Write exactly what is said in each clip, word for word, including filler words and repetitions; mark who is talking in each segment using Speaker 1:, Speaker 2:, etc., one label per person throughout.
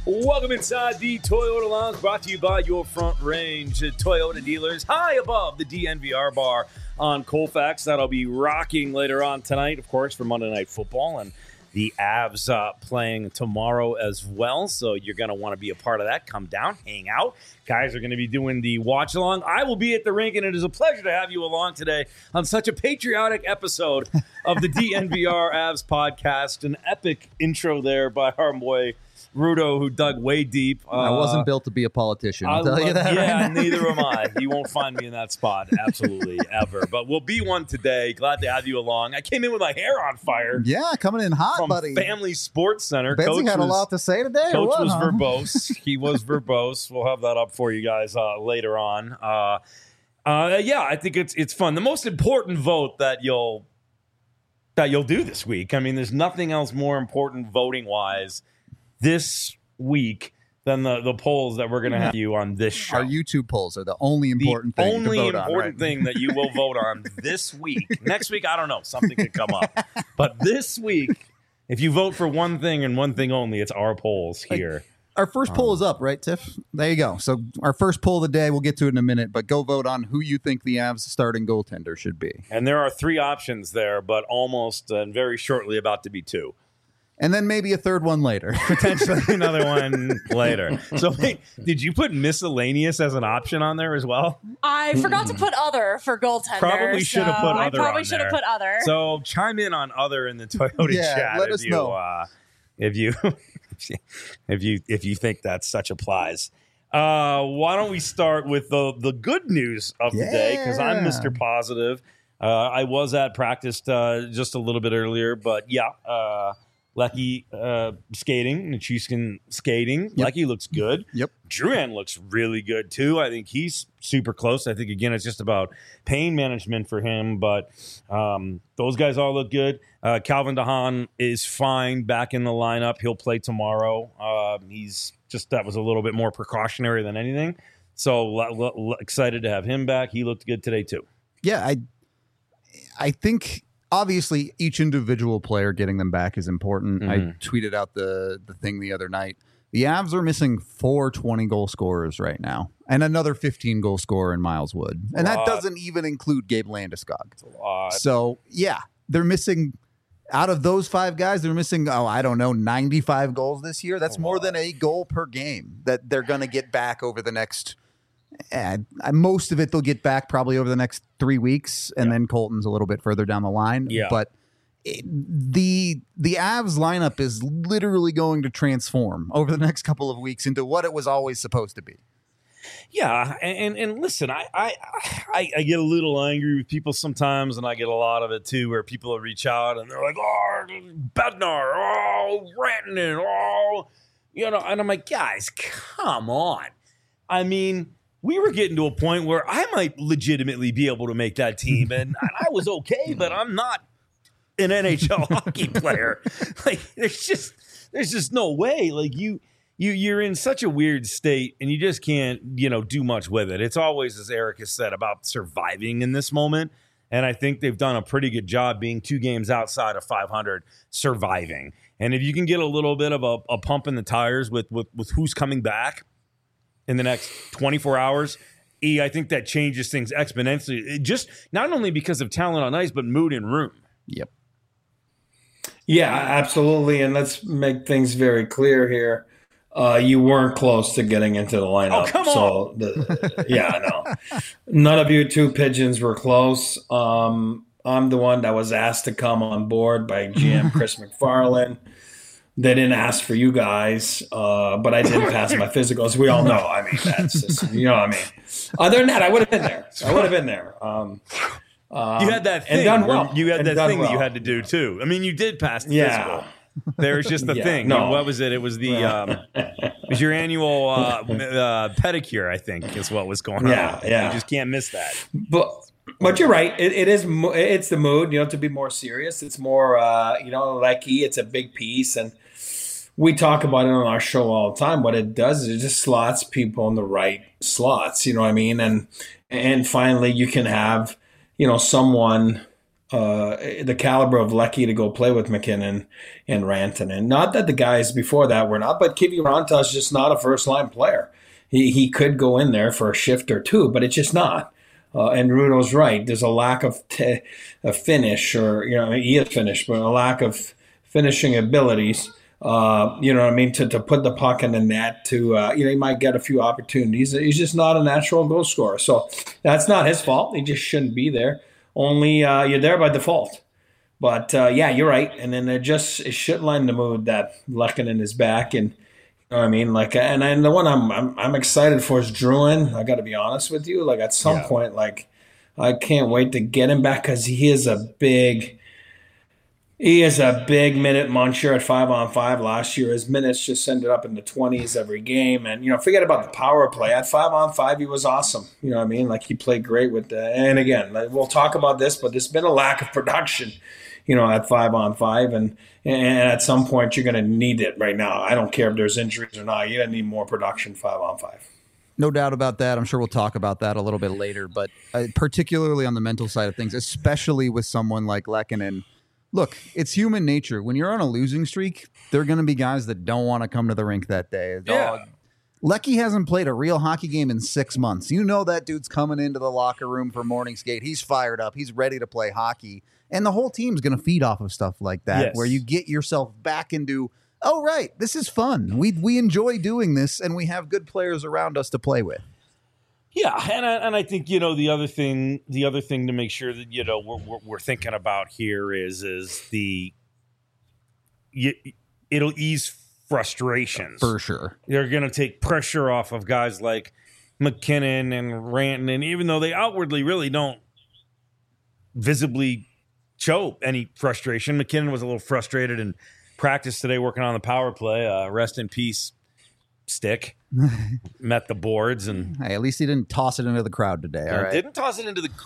Speaker 1: Welcome inside the Toyota Lounge, brought to you by your Front Range Toyota dealers, high above the D N V R bar on Colfax. That'll be rocking later on tonight, of course, for Monday Night Football, and the Avs uh, playing tomorrow as well. So you're going to want to be a part of that. Come down, hang out. Guys are going to be doing the watch along. I will be at the rink, and it is a pleasure to have you along today on such a patriotic episode of the D N V R Avs podcast. An epic intro there by our boy Rudo, who dug way deep. Uh,
Speaker 2: I wasn't built to be a politician, I'll
Speaker 1: I
Speaker 2: tell
Speaker 1: love,
Speaker 2: you that.
Speaker 1: Yeah,
Speaker 2: right now.
Speaker 1: neither am I. You won't find me in that spot, absolutely, ever. But we'll be one today. Glad to have you along. I came in with my hair on fire.
Speaker 2: Yeah, coming in hot,
Speaker 1: from
Speaker 2: buddy.
Speaker 1: Family Sports Center.
Speaker 2: Betsy
Speaker 1: Coach
Speaker 2: had
Speaker 1: was,
Speaker 2: a lot to say today.
Speaker 1: Coach
Speaker 2: or what,
Speaker 1: was
Speaker 2: huh?
Speaker 1: verbose. He was verbose. We'll have that up for you guys uh, later on. Uh, uh, yeah, I think it's it's fun. The most important vote that you'll that you'll do this week. I mean, there's nothing else more important voting wise this week than the, the polls that we're going to have you on this show.
Speaker 2: Our YouTube polls are the only important
Speaker 1: the
Speaker 2: thing
Speaker 1: only
Speaker 2: to vote
Speaker 1: important
Speaker 2: on, right?
Speaker 1: thing that you will vote on this week. Next week, I don't know. Something could come up. But this week, if you vote for one thing and one thing only, it's our polls here.
Speaker 2: Our first poll
Speaker 1: Um,
Speaker 2: is up, right, Tiff? There you go. So our first poll of the day, we'll get to it in a minute, but go vote on who you think the Avs starting goaltender should be.
Speaker 1: And there are three options there, but almost and very shortly about to be two.
Speaker 2: And then maybe a third one later.
Speaker 1: Potentially another one later. So wait, did you put miscellaneous as an option on there as well?
Speaker 3: I forgot to put other for goldtender.
Speaker 1: Probably should have
Speaker 3: so
Speaker 1: put
Speaker 3: I
Speaker 1: other
Speaker 3: probably
Speaker 1: on
Speaker 3: should have
Speaker 1: there.
Speaker 3: put other.
Speaker 1: So chime in on other in the Toyota
Speaker 2: Yeah,
Speaker 1: chat
Speaker 2: let
Speaker 1: if
Speaker 2: us
Speaker 1: you
Speaker 2: know.
Speaker 1: Uh, if you if you if you think that such applies. Uh, why don't we start with the the good news of the day? Because I'm
Speaker 2: Yeah.
Speaker 1: Mister Positive. Uh, I was at practice uh, just a little bit earlier, but yeah. Uh, Lecky uh, skating, Nichushkin skating.
Speaker 2: Yep.
Speaker 1: Lecky looks good.
Speaker 2: Yep.
Speaker 1: Drouin looks really good, too. I think he's super close. I think, again, it's just about pain management for him. But um, those guys all look good. Uh, Calvin DeHaan is fine back in the lineup. He'll play tomorrow. Uh, he's just, that was a little bit more precautionary than anything. So l- l- l- excited to have him back. He looked good today, too.
Speaker 2: Yeah, I, I think... Obviously, each individual player getting them back is important.
Speaker 1: Mm-hmm.
Speaker 2: I tweeted out the the thing the other night. The Avs are missing four twenty-goal scorers right now and another fifteen-goal scorer in Miles Wood. And that
Speaker 1: Lot.
Speaker 2: doesn't even include Gabe Landeskog.
Speaker 1: Uh,
Speaker 2: So, yeah, they're missing – out of those five guys, they're missing, oh, I don't know, ninety-five goals this year. That's more than a goal per game that they're going to get back over the next – Uh, most of it they'll get back probably over the next three weeks, and
Speaker 1: Yeah.
Speaker 2: then Colton's a little bit further down the line.
Speaker 1: Yeah.
Speaker 2: But it, the the Avs lineup is literally going to transform over the next couple of weeks into what it was always supposed to be.
Speaker 1: Yeah, and, and and listen, I, I I I get a little angry with people sometimes, and I get a lot of it too, where people will reach out and they're like, "Oh, Bednar, oh, Rantanen, oh," you know, and I'm like, guys, come on. I mean, we were getting to a point where I might legitimately be able to make that team, and I was okay, but I'm not an N H L hockey player. Like, there's just there's just no way. Like you. You, you're in such a weird state, and you just can't, you know, do much with it. It's always, as Eric has said, about surviving in this moment. And I think they've done a pretty good job being two games outside of five hundred, surviving. And if you can get a little bit of a, a pump in the tires with, with, with who's coming back in the next twenty-four hours, E, I think that changes things exponentially. It just not only because of talent on ice, but mood in room.
Speaker 2: Yep.
Speaker 4: Yeah, absolutely. And let's make things very clear here. Uh, you weren't close to getting into the lineup.
Speaker 1: Oh, come
Speaker 4: so
Speaker 1: on.
Speaker 4: The, yeah, no. None of you two pigeons were close. Um, I'm the one that was asked to come on board by G M Chris McFarland. They didn't ask for you guys, uh, but I did pass my physicals. We all know. I mean, that's just, you know what I mean. Other than that, I would have been there. I would have been there. Um, um,
Speaker 1: You had that thing.
Speaker 4: and done well.
Speaker 1: You had
Speaker 4: And
Speaker 1: that
Speaker 4: done
Speaker 1: thing that you
Speaker 4: well.
Speaker 1: had to do, too. I mean, you did pass the
Speaker 4: Yeah.
Speaker 1: physical. There's just the
Speaker 4: Yeah,
Speaker 1: thing.
Speaker 4: no.
Speaker 1: What was it? It was the um, it was your annual uh, uh, pedicure, I think, is what was going
Speaker 4: Yeah,
Speaker 1: on.
Speaker 4: yeah.
Speaker 1: You just can't miss that.
Speaker 4: But but you're right. It, it is. mo- It's the mood. You know, to be more serious. It's more. Uh, you know, like E. It's a big piece, and we talk about it on our show all the time. What it does is it just slots people in the right slots. You know what I mean? And and finally, you can have you know someone uh, the caliber of Lecky to go play with McKinnon and Rantanen. Not that the guys before that were not, but Kiviranta is just not a first-line player. He he could go in there for a shift or two, but it's just not. Uh, and Rudo's right. There's a lack of t- a finish, or you know, he is finished, but a lack of finishing abilities. Uh, you know what I mean? To to put the puck in the net, to uh, you know, he might get a few opportunities. He's just not a natural goal scorer. So that's not his fault. He just shouldn't be there. Only uh, you're there by default. But uh, yeah, you're right. And then it just it should lighten the mood that Lehkonen is back, and you know what I mean? Like, and, and the one I'm, I'm I'm excited for is Drouin. I got to be honest with you. Like, at some
Speaker 1: Yeah.
Speaker 4: point, like, I can't wait to get him back because he is a big, he is a big minute muncher at five on five. Last year, his minutes just ended up in the twenties every game. And you know, forget about the power play. At five on five, he was awesome. You know what I mean? Like, he played great with the. And again, like, we'll talk about this, but there's been a lack of production, you know, at five on five, and and at some point you're going to need it right now. I don't care if there's injuries or not. You're going to need more production five on five.
Speaker 2: No doubt about that. I'm sure we'll talk about that a little bit later, but uh, particularly on the mental side of things, especially with someone like Lehkonen. Look, it's human nature. When you're on a losing streak, there are going to be guys that don't want to come to the rink that day.
Speaker 1: Yeah.
Speaker 2: Oh, Lecky hasn't played a real hockey game in six months. You know that dude's coming into the locker room for morning skate. He's fired up. He's ready to play hockey. And the whole team's going to feed off of stuff like that,
Speaker 1: Yes.
Speaker 2: where you get yourself back into, oh, right, this is fun. We we enjoy doing this, and we have good players around us to play with.
Speaker 1: Yeah, and I, and I think, you know, the other thing, the other thing to make sure that, you know, we're we're, we're thinking about here is is the you, it'll ease frustrations.
Speaker 2: For sure.
Speaker 1: They're going to take pressure off of guys like McKinnon and Rantanen, even though they outwardly really don't visibly show any frustration. McKinnon was a little frustrated in practice today working on the power play. Uh, rest in peace, Stick. Met the boards and
Speaker 2: Hey, at least he didn't toss it into the crowd today. All
Speaker 1: uh,
Speaker 2: right.
Speaker 1: didn't toss it into the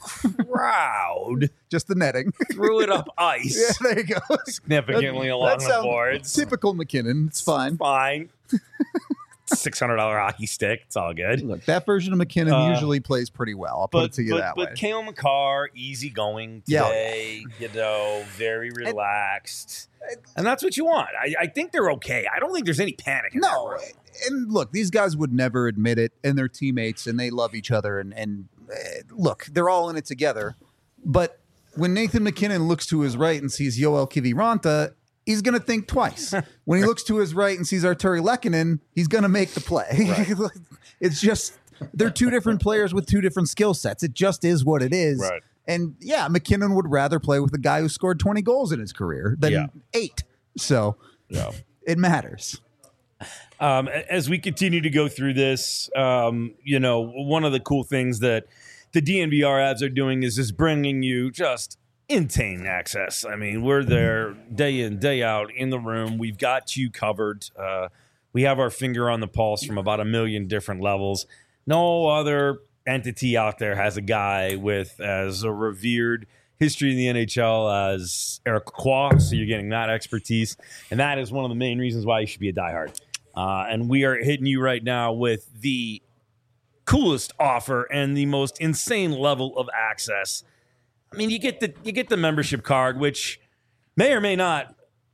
Speaker 1: crowd.
Speaker 2: Just the netting.
Speaker 1: Threw it up ice
Speaker 2: Yeah, there you go.
Speaker 1: significantly
Speaker 2: That-
Speaker 1: along
Speaker 2: that
Speaker 1: the
Speaker 2: sounds
Speaker 1: boards.
Speaker 2: Typical McKinnon. It's fine.
Speaker 1: Fine. six hundred dollars hockey stick. It's all good.
Speaker 2: Look, that version of McKinnon
Speaker 1: Uh,
Speaker 2: usually plays pretty well. I'll put
Speaker 1: But,
Speaker 2: it to you
Speaker 1: but,
Speaker 2: that
Speaker 1: but
Speaker 2: way.
Speaker 1: Kale McCarr, easygoing
Speaker 2: Yeah.
Speaker 1: today, you know, very relaxed. And that's what you want. I, I think they're okay. I don't think there's any panic in
Speaker 2: No,
Speaker 1: that room.
Speaker 2: and look, these guys would never admit it, and they're teammates, and they love each other. And, and uh, look, they're all in it together. But when Nathan McKinnon looks to his right and sees Yoel Kiviranta, he's going to think twice. When he looks to his right and sees Arturi Lehkonen, he's going to make the play. It's just they're two different players with two different skill sets. It just is what it is.
Speaker 1: Right.
Speaker 2: And yeah, McKinnon would rather play with a guy who scored twenty goals in his career than
Speaker 1: Yeah.
Speaker 2: eight. So
Speaker 1: Yeah.
Speaker 2: it matters.
Speaker 1: Um, as we continue to go through this, um, you know, one of the cool things that the D N V R ads are doing is is bringing you just insane access. I mean, we're there day in, day out in the room. We've got you covered. Uh, we have our finger on the pulse from about a million different levels. No other entity out there has a guy with as a revered history in the N H L as Eric Lacroix, so you're getting that expertise. And that is one of the main reasons why you should be a diehard. Uh, and we are hitting you right now with the coolest offer and the most insane level of access. I mean, you get the you get the membership card, which may or may not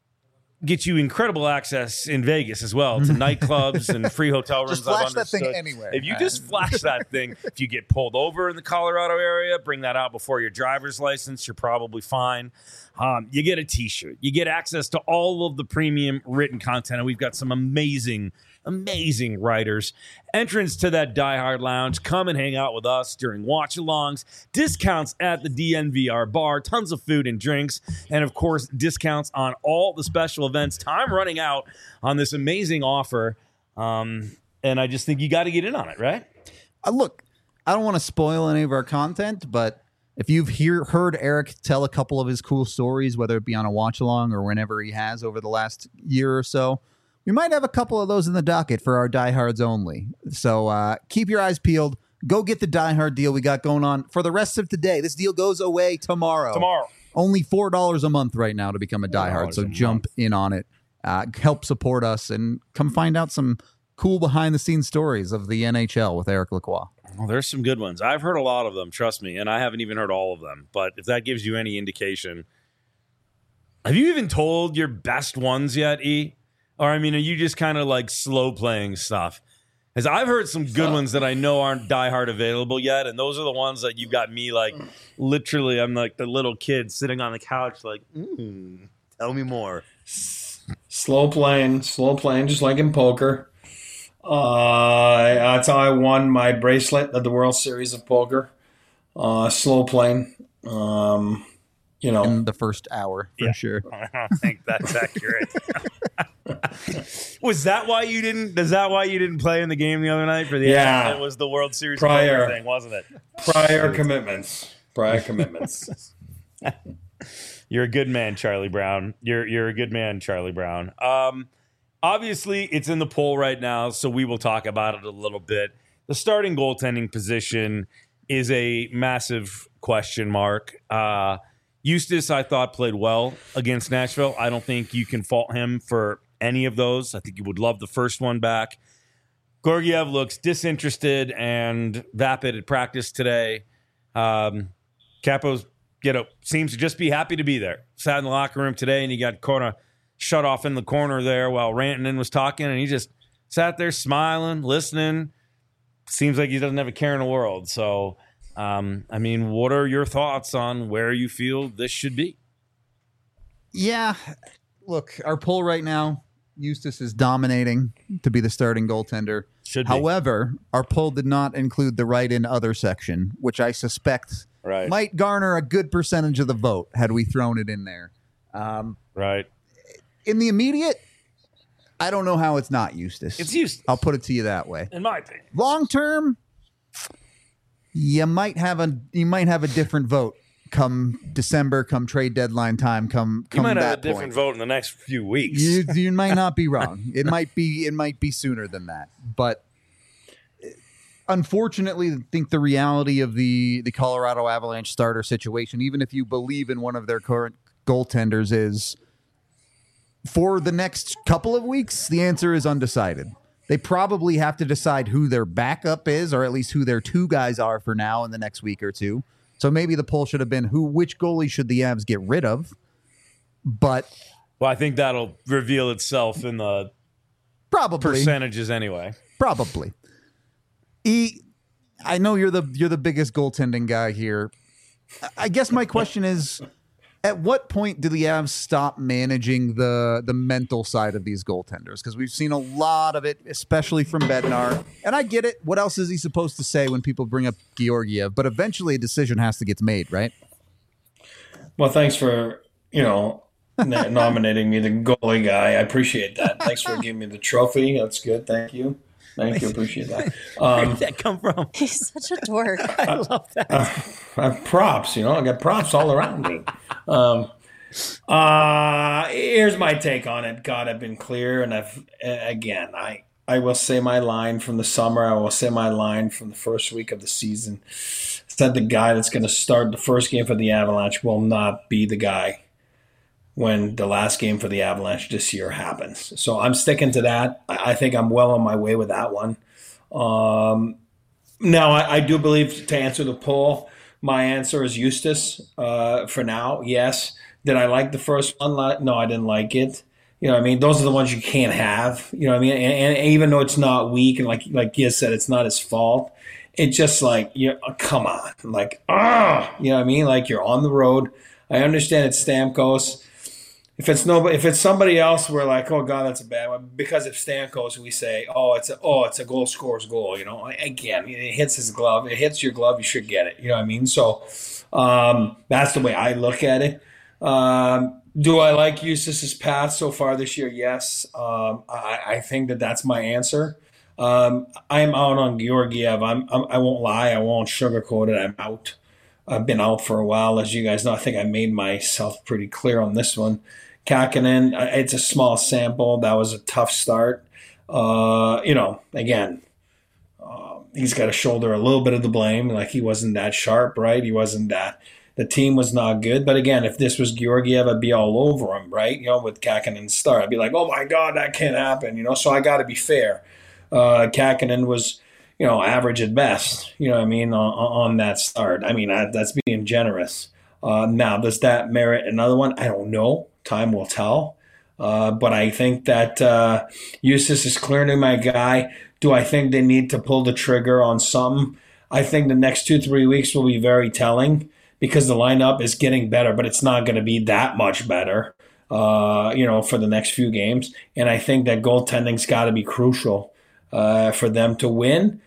Speaker 1: get you incredible access in Vegas as well to nightclubs and free hotel rooms.
Speaker 2: Just flash
Speaker 1: I've
Speaker 2: that thing
Speaker 1: understood.
Speaker 2: anywhere.
Speaker 1: If you just flash that thing, if you get pulled over in the Colorado area, bring that out before your driver's license. You're probably fine. Um, you get a T-shirt. You get access to all of the premium written content, and we've got some amazing, amazing writers. Entrance to that Die Hard Lounge. Come and hang out with us during watch-alongs. Discounts at the D N V R bar. Tons of food and drinks. And, of course, discounts on all the special events. Time running out on this amazing offer. Um, and I just think you got to get in on it, right?
Speaker 2: Uh, look, I don't want to spoil any of our content, but if you've hear, heard Eric tell a couple of his cool stories, whether it be on a watch along or whenever he has over the last year or so, we might have a couple of those in the docket for our diehards only. So uh, keep your eyes peeled. Go get the diehard deal we got going on for the rest of today. This deal goes away tomorrow.
Speaker 1: Tomorrow.
Speaker 2: Only four dollars a month right now to become a diehard. So
Speaker 1: a
Speaker 2: jump
Speaker 1: month.
Speaker 2: in on it. Uh, help support us and come find out some cool behind the scenes stories of the N H L with Eric Lacroix.
Speaker 1: Well, there's some good ones. I've heard a lot of them, trust me, and I haven't even heard all of them. But if that gives you any indication, have you even told your best ones yet, E? Or, I mean, are you just kind of like slow playing stuff? Because I've heard some good ones that I know aren't diehard available yet, and those are the ones that you've got me like, literally, I'm like the little kid sitting on the couch like, mm, tell me more.
Speaker 4: Slow playing, slow playing, just like in poker. Uh, that's how I won my bracelet at the World Series of Poker. Uh, slow playing. Um, you know,
Speaker 2: in the first hour for
Speaker 1: yeah.
Speaker 2: sure.
Speaker 1: I don't think that's accurate. Was that why you didn't? Is that why you didn't play in the game the other night for the?
Speaker 4: Yeah,
Speaker 1: it was the World Series
Speaker 4: prior
Speaker 1: thing, wasn't it?
Speaker 4: Prior commitments. Prior commitments.
Speaker 1: You're a good man, Charlie Brown. You're you're a good man, Charlie Brown. Um, obviously, it's in the poll right now, so we will talk about it a little bit. The starting goaltending position is a massive question mark. Uh, Eustace, I thought, played well against Nashville. I don't think you can fault him for any of those. I think you would love the first one back. Georgiev looks disinterested and vapid at practice today. Um, Capo's, you know, seems to just be happy to be there. Sat in the locker room today, and he got kind of shut off in the corner there while Rantanen was talking, and he just sat there smiling, listening. Seems like he doesn't have a care in the world. So, um, I mean, what are your thoughts on where you feel this should be?
Speaker 2: Yeah, look, our poll right now, Eustace is dominating to be the starting goaltender.
Speaker 1: Should be.
Speaker 2: However, our poll did not include the right in other section, which I suspect
Speaker 1: right.
Speaker 2: might garner a good percentage of the vote had we thrown it in there. Um,
Speaker 1: right.
Speaker 2: In the immediate, I don't know how it's not Eustace.
Speaker 1: It's Eustace.
Speaker 2: I'll put it to you that way.
Speaker 1: In my opinion.
Speaker 2: Long term, you might have a you might have a different vote come December, come trade deadline time, come come
Speaker 1: you might
Speaker 2: that
Speaker 1: have a different
Speaker 2: point.
Speaker 1: vote in the next few weeks.
Speaker 2: You, you might not be wrong. It might be it might be sooner than that. But unfortunately, I think the reality of the the Colorado Avalanche starter situation, even if you believe in one of their current goaltenders, is for the next couple of weeks, the answer is undecided. They probably have to decide who their backup is, or at least who their two guys are for now in the next week or two. So maybe the poll should have been who, which goalie should the Avs get rid of? But
Speaker 1: well, I think that'll reveal itself in the
Speaker 2: probably
Speaker 1: percentages anyway.
Speaker 2: Probably. E, I know you're the you're the biggest goaltending guy here. I guess my question is, at what point do the Avs stop managing the the mental side of these goaltenders? Because we've seen a lot of it, especially from Bednar. And I get it. What else is he supposed to say when people bring up Georgiev? But eventually a decision has to get made, right?
Speaker 4: Well, thanks for, you know, nominating me the goalie guy. I appreciate that. Thanks for giving me the trophy. That's good. Thank you. Thank you. Appreciate that. Um,
Speaker 1: Where did that come from?
Speaker 3: He's such a dork.
Speaker 1: I love that.
Speaker 4: Uh, I have props, you know. I got props all around me. Um, uh, here's my take on it. God, I've been clear, and I've again, I I will say my line from the summer. I will say my line from the first week of the season. Said the guy that's going to start the first game for the Avalanche will not be the guy when the last game for the Avalanche this year happens. So I'm sticking to that. I think I'm well on my way with that one. Um, now, I, I do believe, to answer the poll, my answer is Eustace uh, for now, yes. Did I like the first one? No, I didn't like it. You know what I mean? Those are the ones you can't have. You know what I mean? And, and even though it's not weak, and like like Giz said, it's not his fault. It's just like, you know, come on. Like, ah, you know what I mean? Like, you're on the road. I understand it's Stamkos. If it's no, if it's somebody else, we're like, oh God, that's a bad one. Because if Stamkos, we say, oh, it's a, oh, it's a goal scorer's goal. You know, again, it hits his glove. It hits your glove. You should get it. You know what I mean? So um, that's the way I look at it. Um, do I like Eustace's path so far this year? Yes. Um, I, I think that that's my answer. Um, I'm out on Georgiev. I'm, I'm, I won't lie. I won't sugarcoat it. I'm out. I've been out for a while, as you guys know. I think I made myself pretty clear on this one. Kakkonen, it's a small sample. That was a tough start. Uh, you know, again, uh, he's got to shoulder a little bit of the blame. Like, he wasn't that sharp, right? He wasn't that. The team was not good. But again, if this was Georgiev, I'd be all over him, right? You know, with Kakkonen's start, I'd be like, oh my God, that can't happen. You know, so I got to be fair. Uh, Kakinen was, you know, average at best, you know what I mean, on, on that start. I mean, I, that's being generous. Uh, now, does that merit another one? I don't know. Time will tell. Uh, but I think that uh, Eustace is clearly my guy. Do I think they need to pull the trigger on something? I think the next two, three weeks will be very telling because the lineup is getting better, but it's not going to be that much better, uh, you know, for the next few games. And I think that goaltending's got to be crucial uh, for them to win.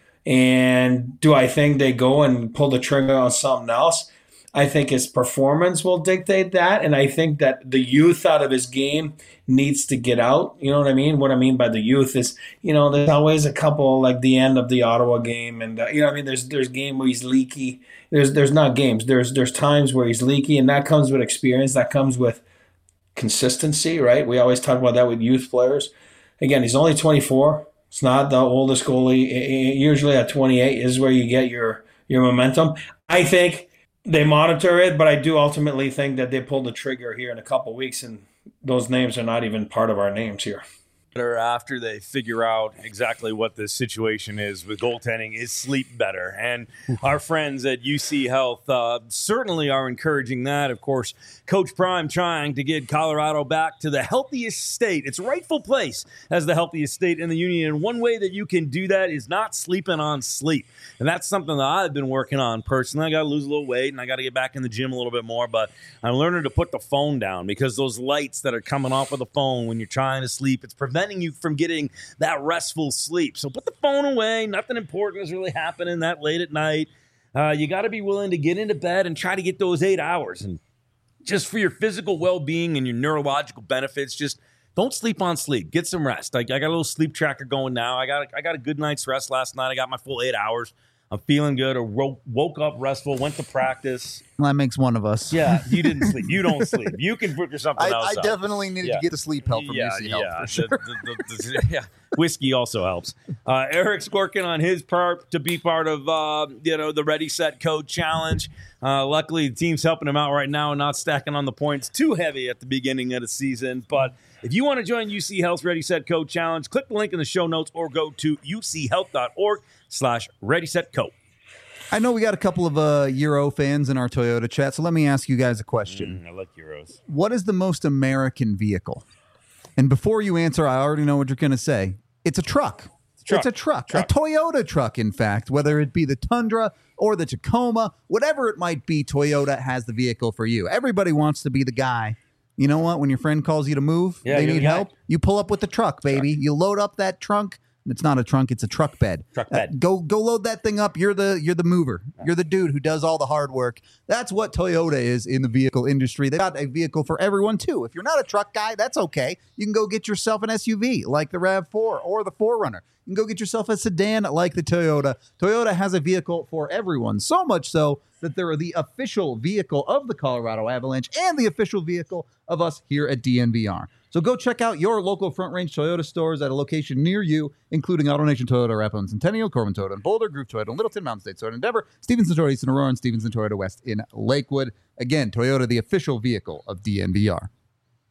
Speaker 4: And do I think they go and pull the trigger on something else? I think his performance will dictate that. And I think that the youth out of his game needs to get out. You know what I mean? What I mean by the youth is, you know, there's always a couple like the end of the Ottawa game. And, uh, you know what I mean? There's there's game where he's leaky. There's there's not games. There's there's times where he's leaky. And that comes with experience. That comes with consistency, right? We always talk about that with youth players. Again, he's only twenty-four. It's not the oldest goalie. Usually at twenty-eight is where you get your your momentum. I think they monitor it, but I do ultimately think that they pull the trigger here in a couple of weeks, and those names are not even part of our names here.
Speaker 1: Or after they figure out exactly what the situation is with goaltending, is sleep better. And our friends at U C Health uh, certainly are encouraging that. Of course, Coach Prime trying to get Colorado back to the healthiest state, its rightful place as the healthiest state in the union. And one way that you can do that is not sleeping on sleep. And that's something that I've been working on personally. I got to lose a little weight and I got to get back in the gym a little bit more. But I'm learning to put the phone down because those lights that are coming off of the phone when you're trying to sleep, it's preventing you from getting that restful sleep. So put the phone away. Nothing important is really happening that late at night. Uh, you got to be willing to get into bed and try to get those eight hours. And just for your physical well-being and your neurological benefits, just don't sleep on sleep. Get some rest. Like I got a little sleep tracker going now. I got I got a good night's rest last night. I got my full eight hours. I'm feeling good. I woke, woke up restful, went to practice.
Speaker 2: Well, that makes one of us.
Speaker 1: Yeah, you didn't sleep. You don't sleep. You can figure something
Speaker 2: I,
Speaker 1: else
Speaker 2: I
Speaker 1: out.
Speaker 2: definitely needed
Speaker 1: Yeah.
Speaker 2: to get the sleep help from
Speaker 1: yeah,
Speaker 2: U C Health.
Speaker 1: yeah.
Speaker 2: For sure.
Speaker 1: The- the- the- the- yeah. Whiskey also helps. Uh, Eric's working on his part to be part of uh, you know the Ready Set Code Challenge. Uh, luckily, the team's helping him out right now and not stacking on the points too heavy at the beginning of the season. But if you want to join U C Health's Ready Set Code Challenge, click the link in the show notes or go to u c health dot org slash ready set code.
Speaker 2: I know we got a couple of uh, Euro fans in our Toyota chat, so let me ask you guys a question.
Speaker 1: Mm, I like Euros.
Speaker 2: What is the most American vehicle? And before you answer, I already know what you're going to say. It's a truck.
Speaker 1: Truck.
Speaker 2: It's a truck.
Speaker 1: Truck.
Speaker 2: A Toyota truck, in fact, whether it be the Tundra or the Tacoma, whatever it might be, Toyota has the vehicle for you. Everybody wants to be the guy. You know what? When your friend calls you to move,
Speaker 1: Yeah,
Speaker 2: they
Speaker 1: you're
Speaker 2: need
Speaker 1: the guy.
Speaker 2: help, you pull up with the truck, baby. You load up that trunk. It's not a trunk; it's a truck bed.
Speaker 1: Truck bed.
Speaker 2: Uh, go, go, load that thing up. You're the, you're the mover. You're the dude who does all the hard work. That's what Toyota is in the vehicle industry. They got a vehicle for everyone too. If you're not a truck guy, that's okay. You can go get yourself an S U V like the RAV four or the four runner. You can go get yourself a sedan like the Toyota. Toyota has a vehicle for everyone. So much so that they're the official vehicle of the Colorado Avalanche and the official vehicle of us here at D N V R. So go check out your local Front Range Toyota stores at a location near you, including AutoNation Toyota, Rathbone Centennial, Corbin Toyota, and Boulder, Groove Toyota, and Littleton, Mountain State Toyota, and Denver, Stevenson Toyota East in Aurora, and Stevenson Toyota West in Lakewood. Again, Toyota, the official vehicle of D N V R.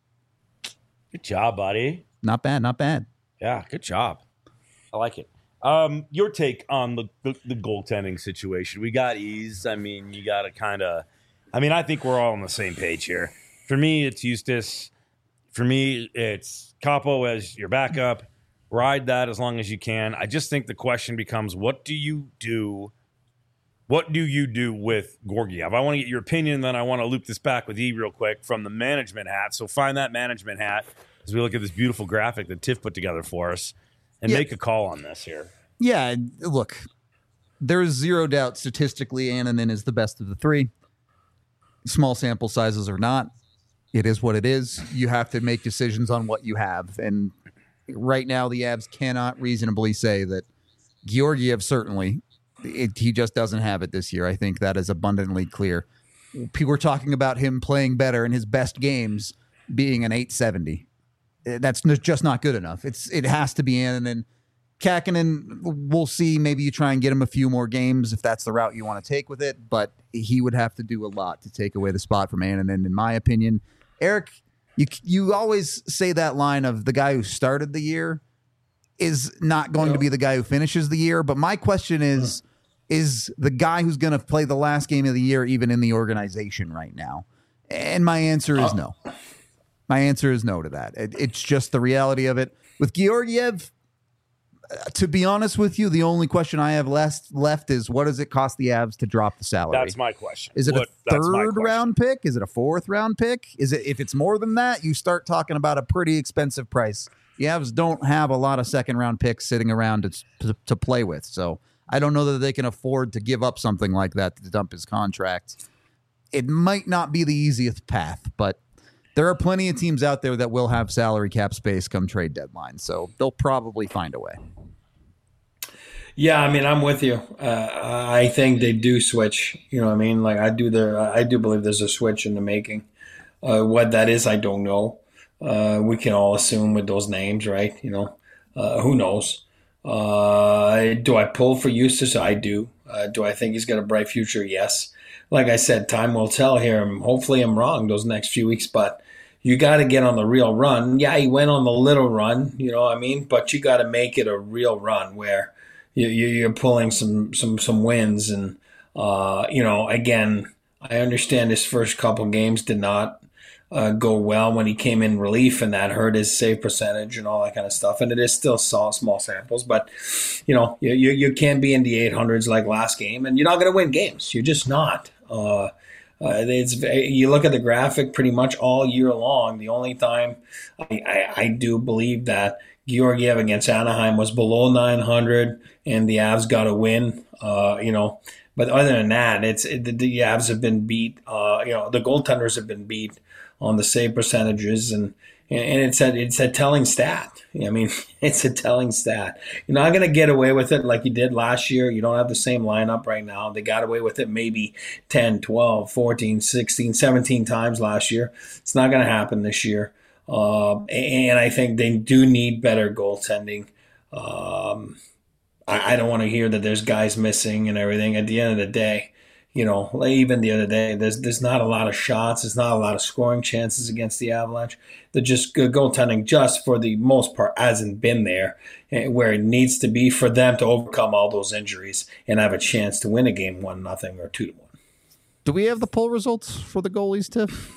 Speaker 1: Good job, buddy.
Speaker 2: Not bad, not bad.
Speaker 1: Yeah, good job. I like it. Um, your take on the, the, the goaltending situation. We got ease. I mean, you got to kind of – I mean, I think we're all on the same page here. For me, it's Eustace. For me, it's Capo as your backup. Ride that as long as you can. I just think the question becomes, what do you do What do you do with Georgiev? I want to get your opinion, then I want to loop this back with E real quick from the management hat. So find that management hat as we look at this beautiful graphic that Tiff put together for us and
Speaker 2: Yeah.
Speaker 1: make a call on this here.
Speaker 2: Yeah, look, there's zero doubt statistically Annunen is the best of the three. Small sample sizes or not, it is what it is. You have to make decisions on what you have. And right now, the Avs cannot reasonably say that Georgiev certainly, it, he just doesn't have it this year. I think that is abundantly clear. People are talking about him playing better in his best games being an eight seventy. That's n- just not good enough. It's It has to be Annunen. Kakinen, we'll see. Maybe you try and get him a few more games if that's the route you want to take with it, but he would have to do a lot to take away the spot from Annunen, in my opinion. Eric, you you always say that line of the guy who started the year. is not going to be the guy who finishes the year. But my question is, is the guy who's going to play the last game of the year even in the organization right now? And my answer is no. My answer is no to that. It, it's just the reality of it. With Georgiev, uh, to be honest with you, the only question I have left left is, what does it cost the Avs to drop the salary?
Speaker 1: That's my question.
Speaker 2: Is it
Speaker 1: what,
Speaker 2: a third round pick? Is it a fourth round pick? Is it, if it's more than that, you start talking about a pretty expensive price. The Avs don't have a lot of second round picks sitting around to, to, to play with. So I don't know that they can afford to give up something like that to dump his contract. It might not be the easiest path, but there are plenty of teams out there that will have salary cap space come trade deadline, so they'll probably find a way.
Speaker 4: Yeah, I mean, I'm with you. Uh, I think they do switch. You know what I mean? Like, I do there. I do believe there's a switch in the making. Uh, what that is, I don't know. Uh, we can all assume with those names, right? You know, uh, who knows? Uh, do I pull for Eustace? I do. Uh, do I think he's got a bright future? Yes. Like I said, time will tell here. Hopefully I'm wrong those next few weeks, but you got to get on the real run. Yeah, he went on the little run, you know what I mean? But you got to make it a real run where you, you, you're pulling some some some wins. And, uh, you know, again, I understand his first couple games did not uh, go well when he came in relief, and that hurt his save percentage and all that kind of stuff. And it is still small, small samples. But, you know, you, you, you can't be in the eight hundreds like last game, and you're not going to win games. You're just not. Uh, uh, it's you look at the graphic pretty much all year long. The only time I, I, I do believe that Georgiev against Anaheim was below nine hundred and the Avs got a win, uh, you know. But other than that, it's it, the, the Avs have been beat. Uh, you know, the goaltenders have been beat on the save percentages, and and it's a it's a telling stat. I mean, it's a telling stat. You're not going to get away with it like you did last year. You don't have the same lineup right now. They got away with it maybe ten, twelve, fourteen, sixteen, seventeen times last year. It's not going to happen this year. Uh, and I think they do need better goaltending. Um, I, I don't want to hear that there's guys missing and everything. At the end of the day, you know, like even the other day, there's there's not a lot of shots. There's not a lot of scoring chances against the Avalanche. They're just good goaltending, just for the most part, hasn't been there where it needs to be for them to overcome all those injuries and have a chance to win a game one nothing or two to one.
Speaker 2: Do we have the poll results for the goalies, Tiff?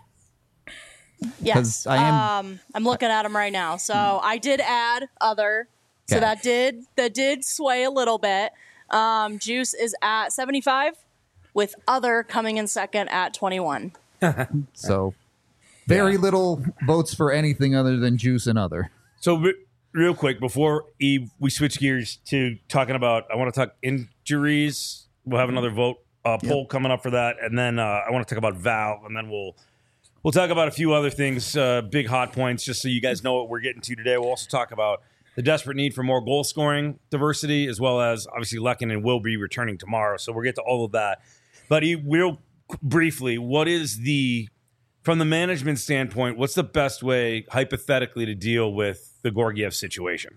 Speaker 3: Yes,
Speaker 2: I am,
Speaker 3: um, I'm looking at them right now. So I did add other, so
Speaker 2: Okay.
Speaker 3: that did that did sway a little bit. Um, Juice is at seventy-five, with other coming in second at twenty-one.
Speaker 2: So very little votes for anything other than Juice and other.
Speaker 1: So re- real quick, before Eve, we switch gears to talking about, I want to talk injuries. We'll have another vote uh, poll
Speaker 2: Yep.
Speaker 1: coming up for that, and then uh, I want to talk about Val, and then we'll we'll talk about a few other things, uh, big hot points, just so you guys know what we're getting to today. We'll also talk about the desperate need for more goal scoring diversity, as well as obviously Lehkonen will be returning tomorrow, so we'll get to all of that. But Eve, real briefly, what is the, from the management standpoint, what's the best way hypothetically to deal with the Georgiev situation?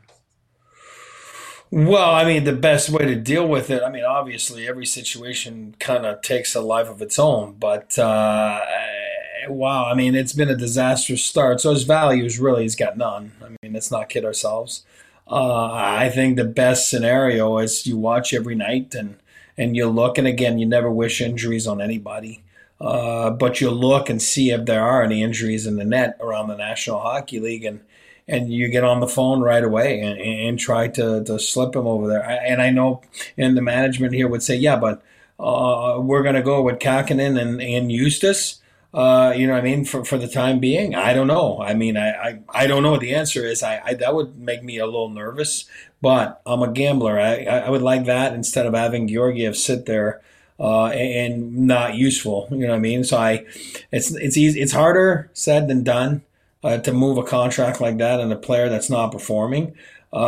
Speaker 4: Well, I mean, the best way to deal with it, I mean, obviously every situation kind of takes a life of its own, but uh, wow, I mean, it's been a disastrous start. So his values really, he's got none. I mean, let's not kid ourselves. Uh, I think the best scenario is you watch every night and, and you look, and again, you never wish injuries on anybody. Uh, but you look and see if there are any injuries in the net around the National Hockey League, and and you get on the phone right away and, and try to, to slip him over there. And I know, and the management here would say, yeah, but uh, we're going to go with Kakinen and, and Eustace, uh, you know what I mean, for, for the time being. I don't know. I mean, I, I, I don't know what the answer is. I, I that would make me a little nervous, but I'm a gambler. I, I would like that instead of having Georgiev sit there Uh, and not useful, you know what I mean? So I, it's it's easy, it's harder said than done uh, to move a contract like that and a player that's not performing.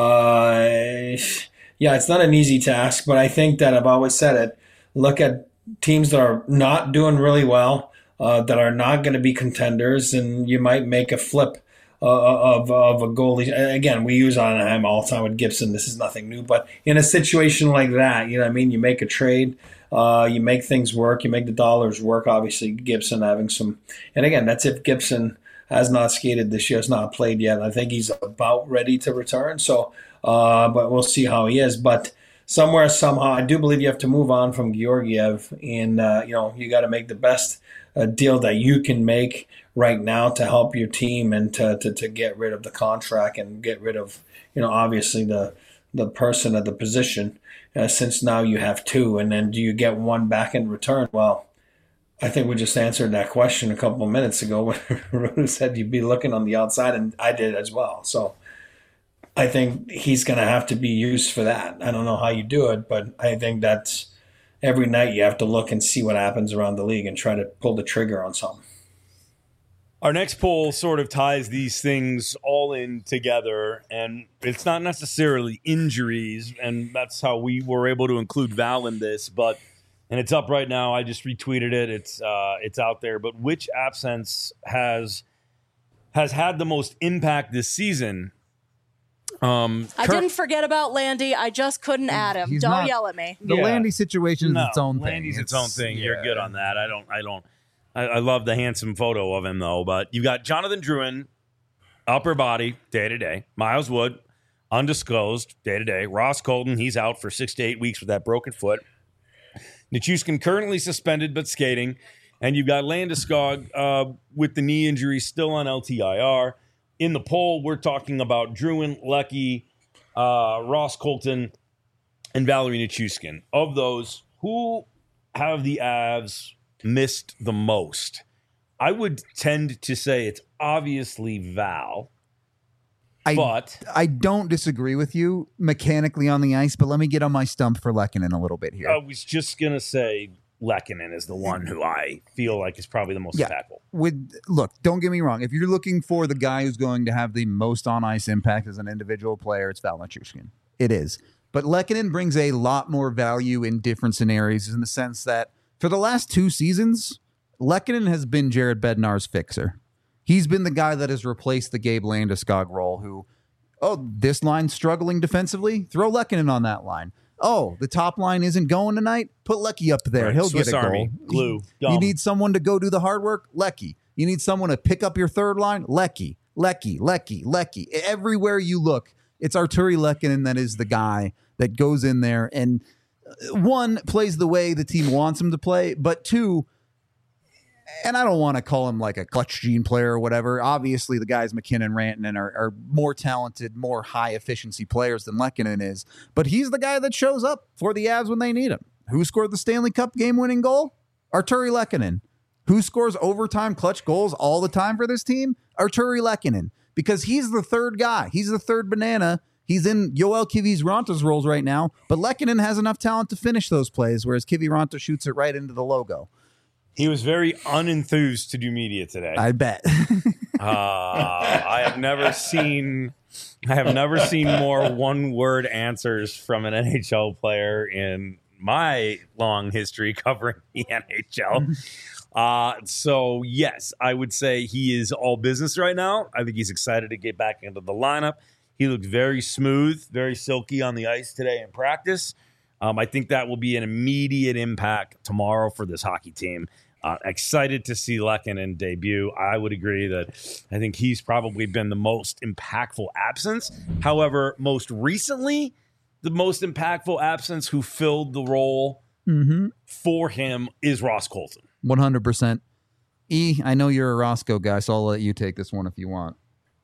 Speaker 4: Uh, yeah, it's not an easy task, but I think that I've always said it. Look at teams that are not doing really well, uh, that are not going to be contenders, and you might make a flip uh, of of a goalie. Again, we use Anaheim all the time with Gibson. This is nothing new, but in a situation like that, you know what I mean? You make a trade. Uh, you make things work. You make the dollars work. Obviously, Gibson having some, and again, that's if Gibson has not skated this year, has not played yet. I think he's about ready to return. So, uh, but we'll see how he is. But somewhere, somehow, I do believe you have to move on from Georgiev, and uh, you know you got to make the best uh, deal that you can make right now to help your team and to, to to get rid of the contract and get rid of you know obviously the the person at the position. Uh, since now you have two, and then do you get one back in return? Well, I think we just answered that question a couple of minutes ago when Rune said you'd be looking on the outside, and I did as well. So I think he's going to have to be used for that. I don't know how you do it, but I think that's every night you have to look and see what happens around the league and try to pull the trigger on something.
Speaker 1: Our next poll sort of ties these things all in together, and it's not necessarily injuries, and that's how we were able to include Val in this, but and it's up right now. I just retweeted it. It's uh, it's out there. But which absence has has had the most impact this season? Um,
Speaker 3: I
Speaker 1: Kurt-
Speaker 3: didn't forget about Landy. I just couldn't add him.
Speaker 2: He's
Speaker 3: Don't
Speaker 2: not-
Speaker 3: yell at me.
Speaker 2: The
Speaker 1: Yeah.
Speaker 2: Landy situation is
Speaker 1: No,
Speaker 2: its own thing.
Speaker 1: Landy's its, own thing. You're
Speaker 2: yeah.
Speaker 1: good on that. I don't. I don't. I, I love the handsome photo of him though. But you got Jonathan Drouin, upper body, day to day. Miles Wood, undisclosed, day to day. Ross Colton, he's out for six to eight weeks with that broken foot. Nichushkin currently suspended but skating, and you've got Landeskog uh, with the knee injury still on L T I R. In the poll, we're talking about Drouin, Lecky, uh, Ross Colton, and Valerie Nichushkin. Of those, who have the Avs missed the most? I would tend to say it's obviously Val,
Speaker 2: I,
Speaker 1: but
Speaker 2: I don't disagree with you mechanically on the ice, but let me get on my stump for Lehkonen a little bit here.
Speaker 1: I was just going to say Lehkonen is the one who I feel like is probably the most
Speaker 2: Yeah.
Speaker 1: impactful.
Speaker 2: With look, don't get me wrong. If you're looking for the guy who's going to have the most on ice impact as an individual player, it's Val Nichushkin. It is. But Lehkonen brings a lot more value in different scenarios in the sense that for the last two seasons, Lehkonen has been Jared Bednar's fixer. He's been the guy that has replaced the Gabe Landeskog role who, oh, this line's struggling defensively? Throw Lehkonen on that line. Oh, the top line isn't going tonight? Put Lecky up there.
Speaker 1: Right.
Speaker 2: He'll
Speaker 1: Swiss
Speaker 2: get a
Speaker 1: Army.
Speaker 2: goal.
Speaker 1: Glue.
Speaker 2: You
Speaker 1: Dumb.
Speaker 2: need someone to go do the hard work? Lecky. You need someone to pick up your third line? Lecky. Lecky. Lecky. Lecky. Everywhere you look, it's Arturi Lehkonen that is the guy that goes in there and, uh, one, plays the way the team wants him to play, but two, and I don't want to call him like a clutch gene player or whatever. Obviously, the guys McKinnon, Rantanen are, are more talented, more high efficiency players than Lehkonen is. But he's the guy that shows up for the Avs when they need him. Who scored the Stanley Cup game winning goal? Arturi Lehkonen. Who scores overtime clutch goals all the time for this team? Arturi Lehkonen. Because he's the third guy. He's the third banana. He's in Yoel Kiviranta roles right now. But Lehkonen has enough talent to finish those plays, whereas Kiviranta shoots it right into the logo.
Speaker 1: He was very unenthused to do media today.
Speaker 2: I bet.
Speaker 1: uh, I have never seen I have never seen more one-word answers from an N H L player in my long history covering the N H L. Uh, so, yes, I would say he is all business right now. I think he's excited to get back into the lineup. He looked very smooth, very silky on the ice today in practice. Um, I think that will be an immediate impact tomorrow for this hockey team. Uh, excited to see Lehkonen debut. I would agree that I think he's probably been the most impactful absence. However, most recently, the most impactful absence who filled the role
Speaker 2: Mm-hmm.
Speaker 1: for him is Ross Colton.
Speaker 2: one hundred percent. E, I know you're a Roscoe guy, so I'll let you take this one if you want.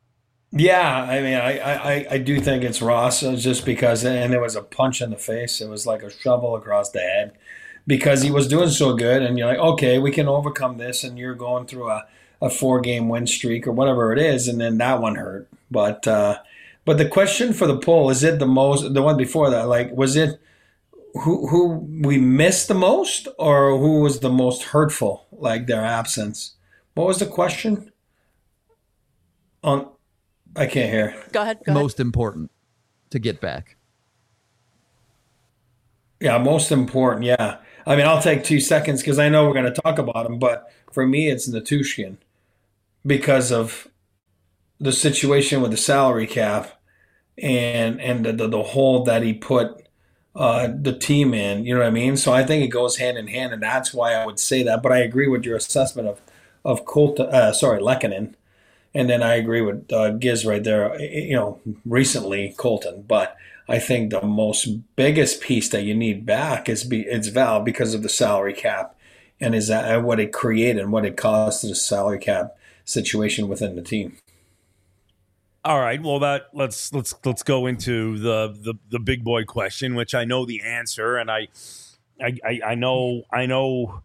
Speaker 4: Yeah, I mean, I, I, I do think it's Ross just because, and it was a punch in the face. It was like a shovel across the head because he was doing so good. And you're like, okay, we can overcome this. And you're going through a, a four game win streak or whatever it is. And then that one hurt. But, uh, but the question for the poll, is it the most, the one before that, like, was it who, who we missed the most or who was the most hurtful, like their absence? What was the question? On, I can't hear.
Speaker 3: Go ahead. Go ahead.
Speaker 2: Most important to get back.
Speaker 4: Yeah, most important. Yeah. I mean, I'll take two seconds because I know we're going to talk about him, but for me, it's Nichushkin because of the situation with the salary cap and and the, the, the hole that he put uh, the team in. You know what I mean? So I think it goes hand in hand, and that's why I would say that. But I agree with your assessment of of Colt. Uh, sorry, Lehkonen. And then I agree with uh, Giz right there, you know, recently Colton. But I think the most biggest piece that you need back is be, it's Val because of the salary cap and is that what it created and what it caused to the salary cap situation within the team.
Speaker 1: All right, well, that let's let's let's go into the, the the big boy question, which I know the answer, and I, I I I know I know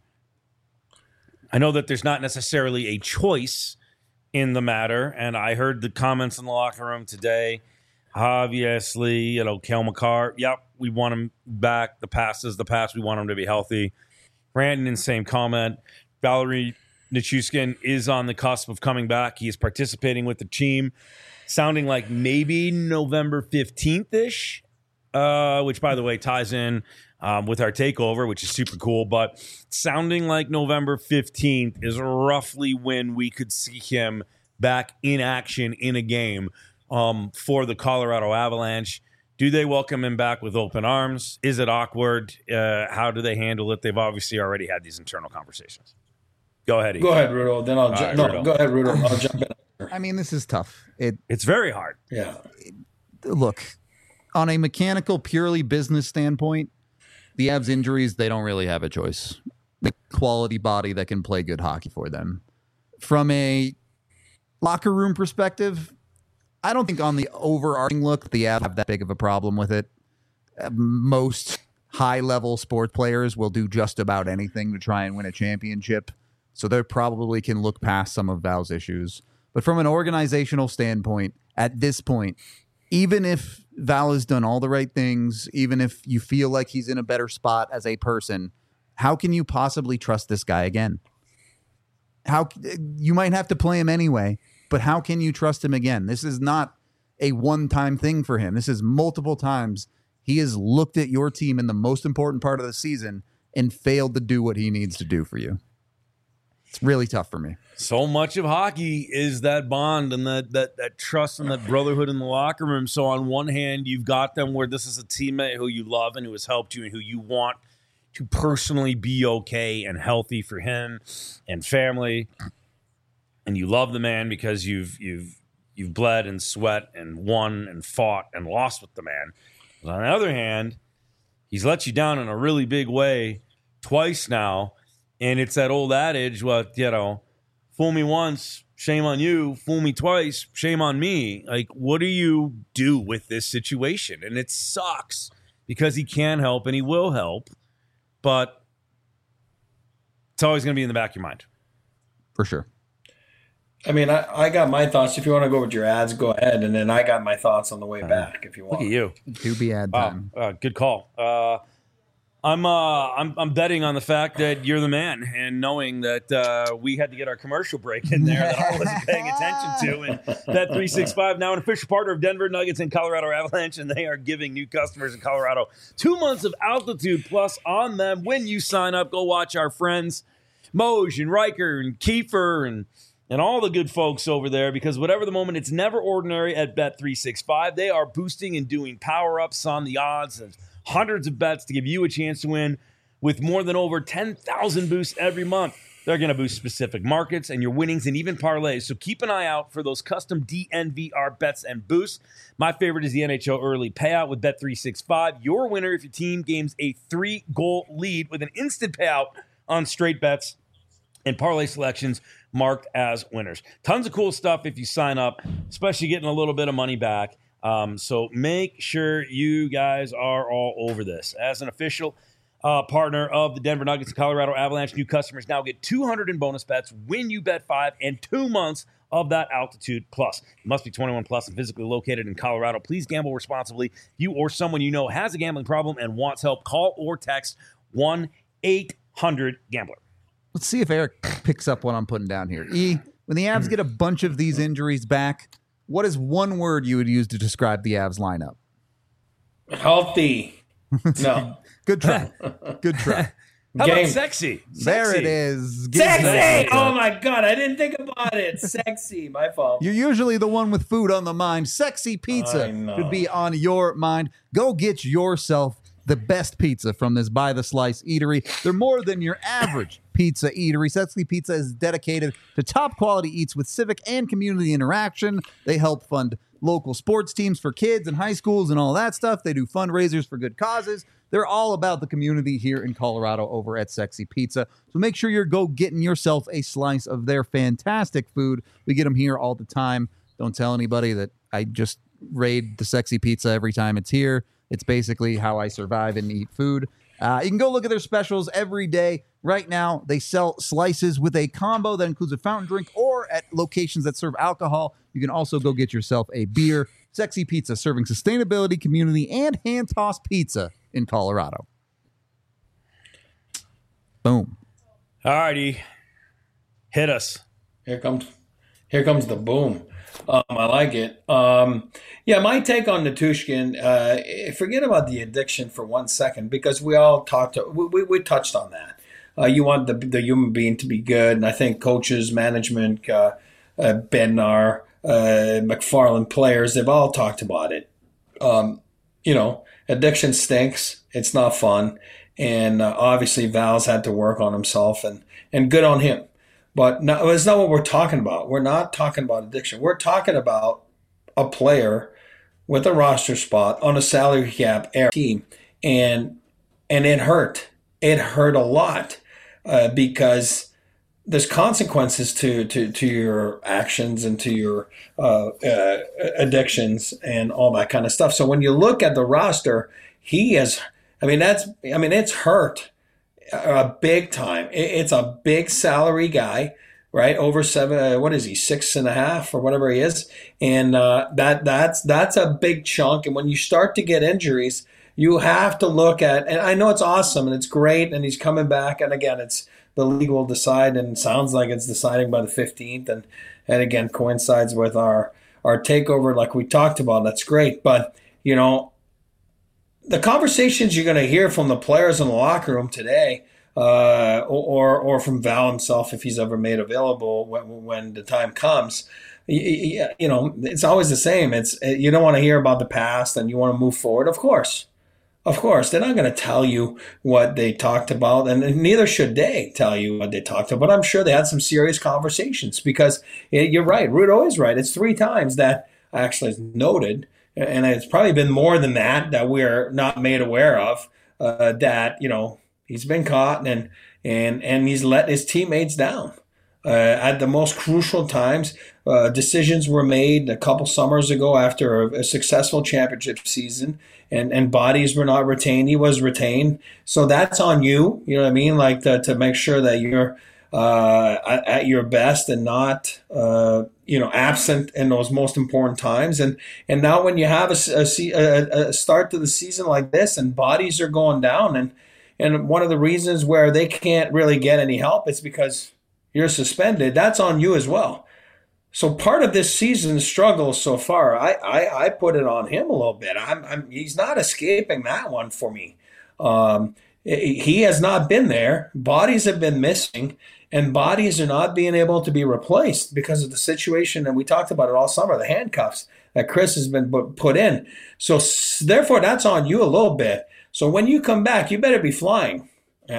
Speaker 1: I know that there's not necessarily a choice in the matter, and I heard the comments in the locker room today. Obviously, you know, Cale Makar, yep, we want him back. The past is the past. We want him to be healthy. Brandon, same comment. Valerie Nichushkin is on the cusp of coming back. He is participating with the team. Sounding like maybe November fifteenth-ish, uh, which, by the way, ties in um, with our takeover, which is super cool. But sounding like November fifteenth is roughly when we could see him back in action in a game um, for the Colorado Avalanche. Do they welcome him back with open arms? Is it awkward? Uh, how do they handle it? They've obviously already had these internal conversations. Go ahead, Ethan.
Speaker 4: Go ahead, Rudo. Then I'll ju-
Speaker 1: right,
Speaker 4: no,
Speaker 1: Rudo.
Speaker 4: go ahead, Rudo. I'll jump in.
Speaker 2: I mean, this is tough. It
Speaker 1: It's very hard.
Speaker 4: Yeah.
Speaker 2: Look, on a mechanical, purely business standpoint, the Avs injuries, they don't really have a choice. The quality body that can play good hockey for them. From a locker room perspective, I don't think on the overarching look, the Avs have that big of a problem with it. Uh, most high-level sport players will do just about anything to try and win a championship, so they probably can look past some of Val's issues. But from an organizational standpoint, at this point, even if Val has done all the right things, even if you feel like he's in a better spot as a person, how can you possibly trust this guy again? How you might have to play him anyway, but how can you trust him again? This is not a one-time thing for him. This is multiple times he has looked at your team in the most important part of the season and failed to do what he needs to do for you. It's really tough for me.
Speaker 1: So much of hockey is that bond and that that that trust and that brotherhood in the locker room. So on one hand, you've got them where this is a teammate who you love and who has helped you and who you want to personally be okay and healthy for him and family. And you love the man because you've you've you've bled and sweat and won and fought and lost with the man. But on the other hand, he's let you down in a really big way twice now. And it's that old adage, well, you know, fool me once, shame on you. Fool me twice, shame on me. Like, what do you do with this situation? And it sucks because he can help and he will help. But it's always going to be in the back of your mind.
Speaker 2: For sure.
Speaker 4: I mean, I, I got my thoughts. If you want to go with your ads, go ahead. And then I got my thoughts on the way back if you want.
Speaker 1: Look at you.
Speaker 2: Do be ad
Speaker 1: Wow.
Speaker 2: time.
Speaker 1: Uh, good call. Uh, I'm uh I'm I'm betting on the fact that you're the man, and knowing that uh, we had to get our commercial break in there that I wasn't paying attention to. And Bet three sixty-five, now an official partner of Denver Nuggets and Colorado Avalanche, and they are giving new customers in Colorado two months of Altitude Plus on them when you sign up. Go watch our friends Moj and Riker and Kiefer and and all the good folks over there, because whatever the moment, it's never ordinary at Bet three sixty-five. They are boosting and doing power-ups on the odds and hundreds of bets to give you a chance to win with more than over ten thousand boosts every month. They're going to boost specific markets and your winnings and even parlays. So keep an eye out for those custom D N V R bets and boosts. My favorite is the N H L early payout with Bet three sixty-five. Your winner if your team gains a three-goal lead with an instant payout on straight bets and parlay selections marked as winners. Tons of cool stuff if you sign up, especially getting a little bit of money back. Um, so make sure you guys are all over this. As an official uh, partner of the Denver Nuggets and Colorado Avalanche, new customers now get two hundred in bonus bets when you bet five and two months of that Altitude Plus. You must be twenty-one plus and physically located in Colorado. Please gamble responsibly. If you or someone you know has a gambling problem and wants help, call or text one eight hundred gambler.
Speaker 2: Let's see if Eric picks up what I'm putting down here. E, when the Avs get a bunch of these injuries back, what is one word you would use to describe the Avs lineup?
Speaker 4: Healthy. No.
Speaker 2: Good try. Good try.
Speaker 1: How
Speaker 4: Game.
Speaker 1: about sexy?
Speaker 2: There
Speaker 1: Sexy.
Speaker 2: it is. Give
Speaker 4: Sexy.
Speaker 2: that
Speaker 4: Oh
Speaker 2: up.
Speaker 4: my God. I didn't think about it. Sexy. My fault.
Speaker 2: You're usually the one with food on the mind. Sexy
Speaker 4: I
Speaker 2: pizza
Speaker 4: know.
Speaker 2: could be on your mind. Go get yourself the best pizza from this By the Slice eatery. They're more than your average Pizza Eatery. Sexy Pizza is dedicated to top quality eats with civic and community interaction. They help fund local sports teams for kids and high schools and all that stuff. They do fundraisers for good causes. They're all about the community here in Colorado over at Sexy Pizza. So make sure you're go getting yourself a slice of their fantastic food. We get them here all the time. Don't tell anybody that I just raid the Sexy Pizza every time it's here. It's basically how I survive and eat food. Uh, you can go look at their specials every day. Right now, they sell slices with a combo that includes a fountain drink, or at locations that serve alcohol, you can also go get yourself a beer. Sexy Pizza, serving sustainability, community, and hand-tossed pizza in Colorado. Boom.
Speaker 1: All righty. Hit us.
Speaker 4: Here comes, here comes the boom. Um, I like it. Um, yeah, my take on Nichushkin, uh, forget about the addiction for one second, because we all talked, to, we, we, we touched on that. Uh, you want the, the human being to be good, and I think coaches, management, uh, uh, Bednar, uh, McFarland, players, they've all talked about it. Um, you know, addiction stinks. It's not fun. And uh, obviously Val's had to work on himself, and, and good on him. But no, it's not what we're talking about. We're not talking about addiction. We're talking about a player with a roster spot on a salary cap team, and and it hurt. It hurt a lot uh, because there's consequences to, to, to your actions and to your uh, uh, addictions and all that kind of stuff. So when you look at the roster, he has. I mean, that's. I mean, it's hurt. A big time. It's a big salary guy, right? Over seven. Uh, what is he? Six and a half or whatever he is, and uh, that that's that's a big chunk. And when you start to get injuries, you have to look at. And I know it's awesome and it's great, and he's coming back. And again, it's the league will decide, and it sounds like it's deciding by the fifteenth. And and again, coincides with our our takeover, like we talked about. That's great, but you know. The conversations you're going to hear from the players in the locker room today, uh, or or from Val himself, if he's ever made available when, when the time comes, you, you know, it's always the same. It's you don't want to hear about the past, and you want to move forward. Of course, of course, they're not going to tell you what they talked about, and neither should they tell you what they talked about. But I'm sure they had some serious conversations, because you're right. Rudo is right. It's three times that actually is noted. And it's probably been more than that that we're not made aware of, uh, that, you know, he's been caught and and and he's let his teammates down. Uh, at the most crucial times, uh, decisions were made a couple summers ago after a, a successful championship season, and, and bodies were not retained. He was retained. So that's on you, you know what I mean? Like to, to make sure that you're uh, at, at your best and not uh, – you know, absent in those most important times. And and now when you have a, a, a start to the season like this and bodies are going down, and, and one of the reasons where they can't really get any help is because you're suspended, that's on you as well. So part of this season's struggle so far, I, I, I put it on him a little bit. I'm, I'm he's not escaping that one for me. Um, he has not been there. Bodies have been missing. And bodies are not being able to be replaced because of the situation, and we talked about it all summer, the handcuffs that Chris has been put in. So therefore, that's on you a little bit. So when you come back, you better be flying.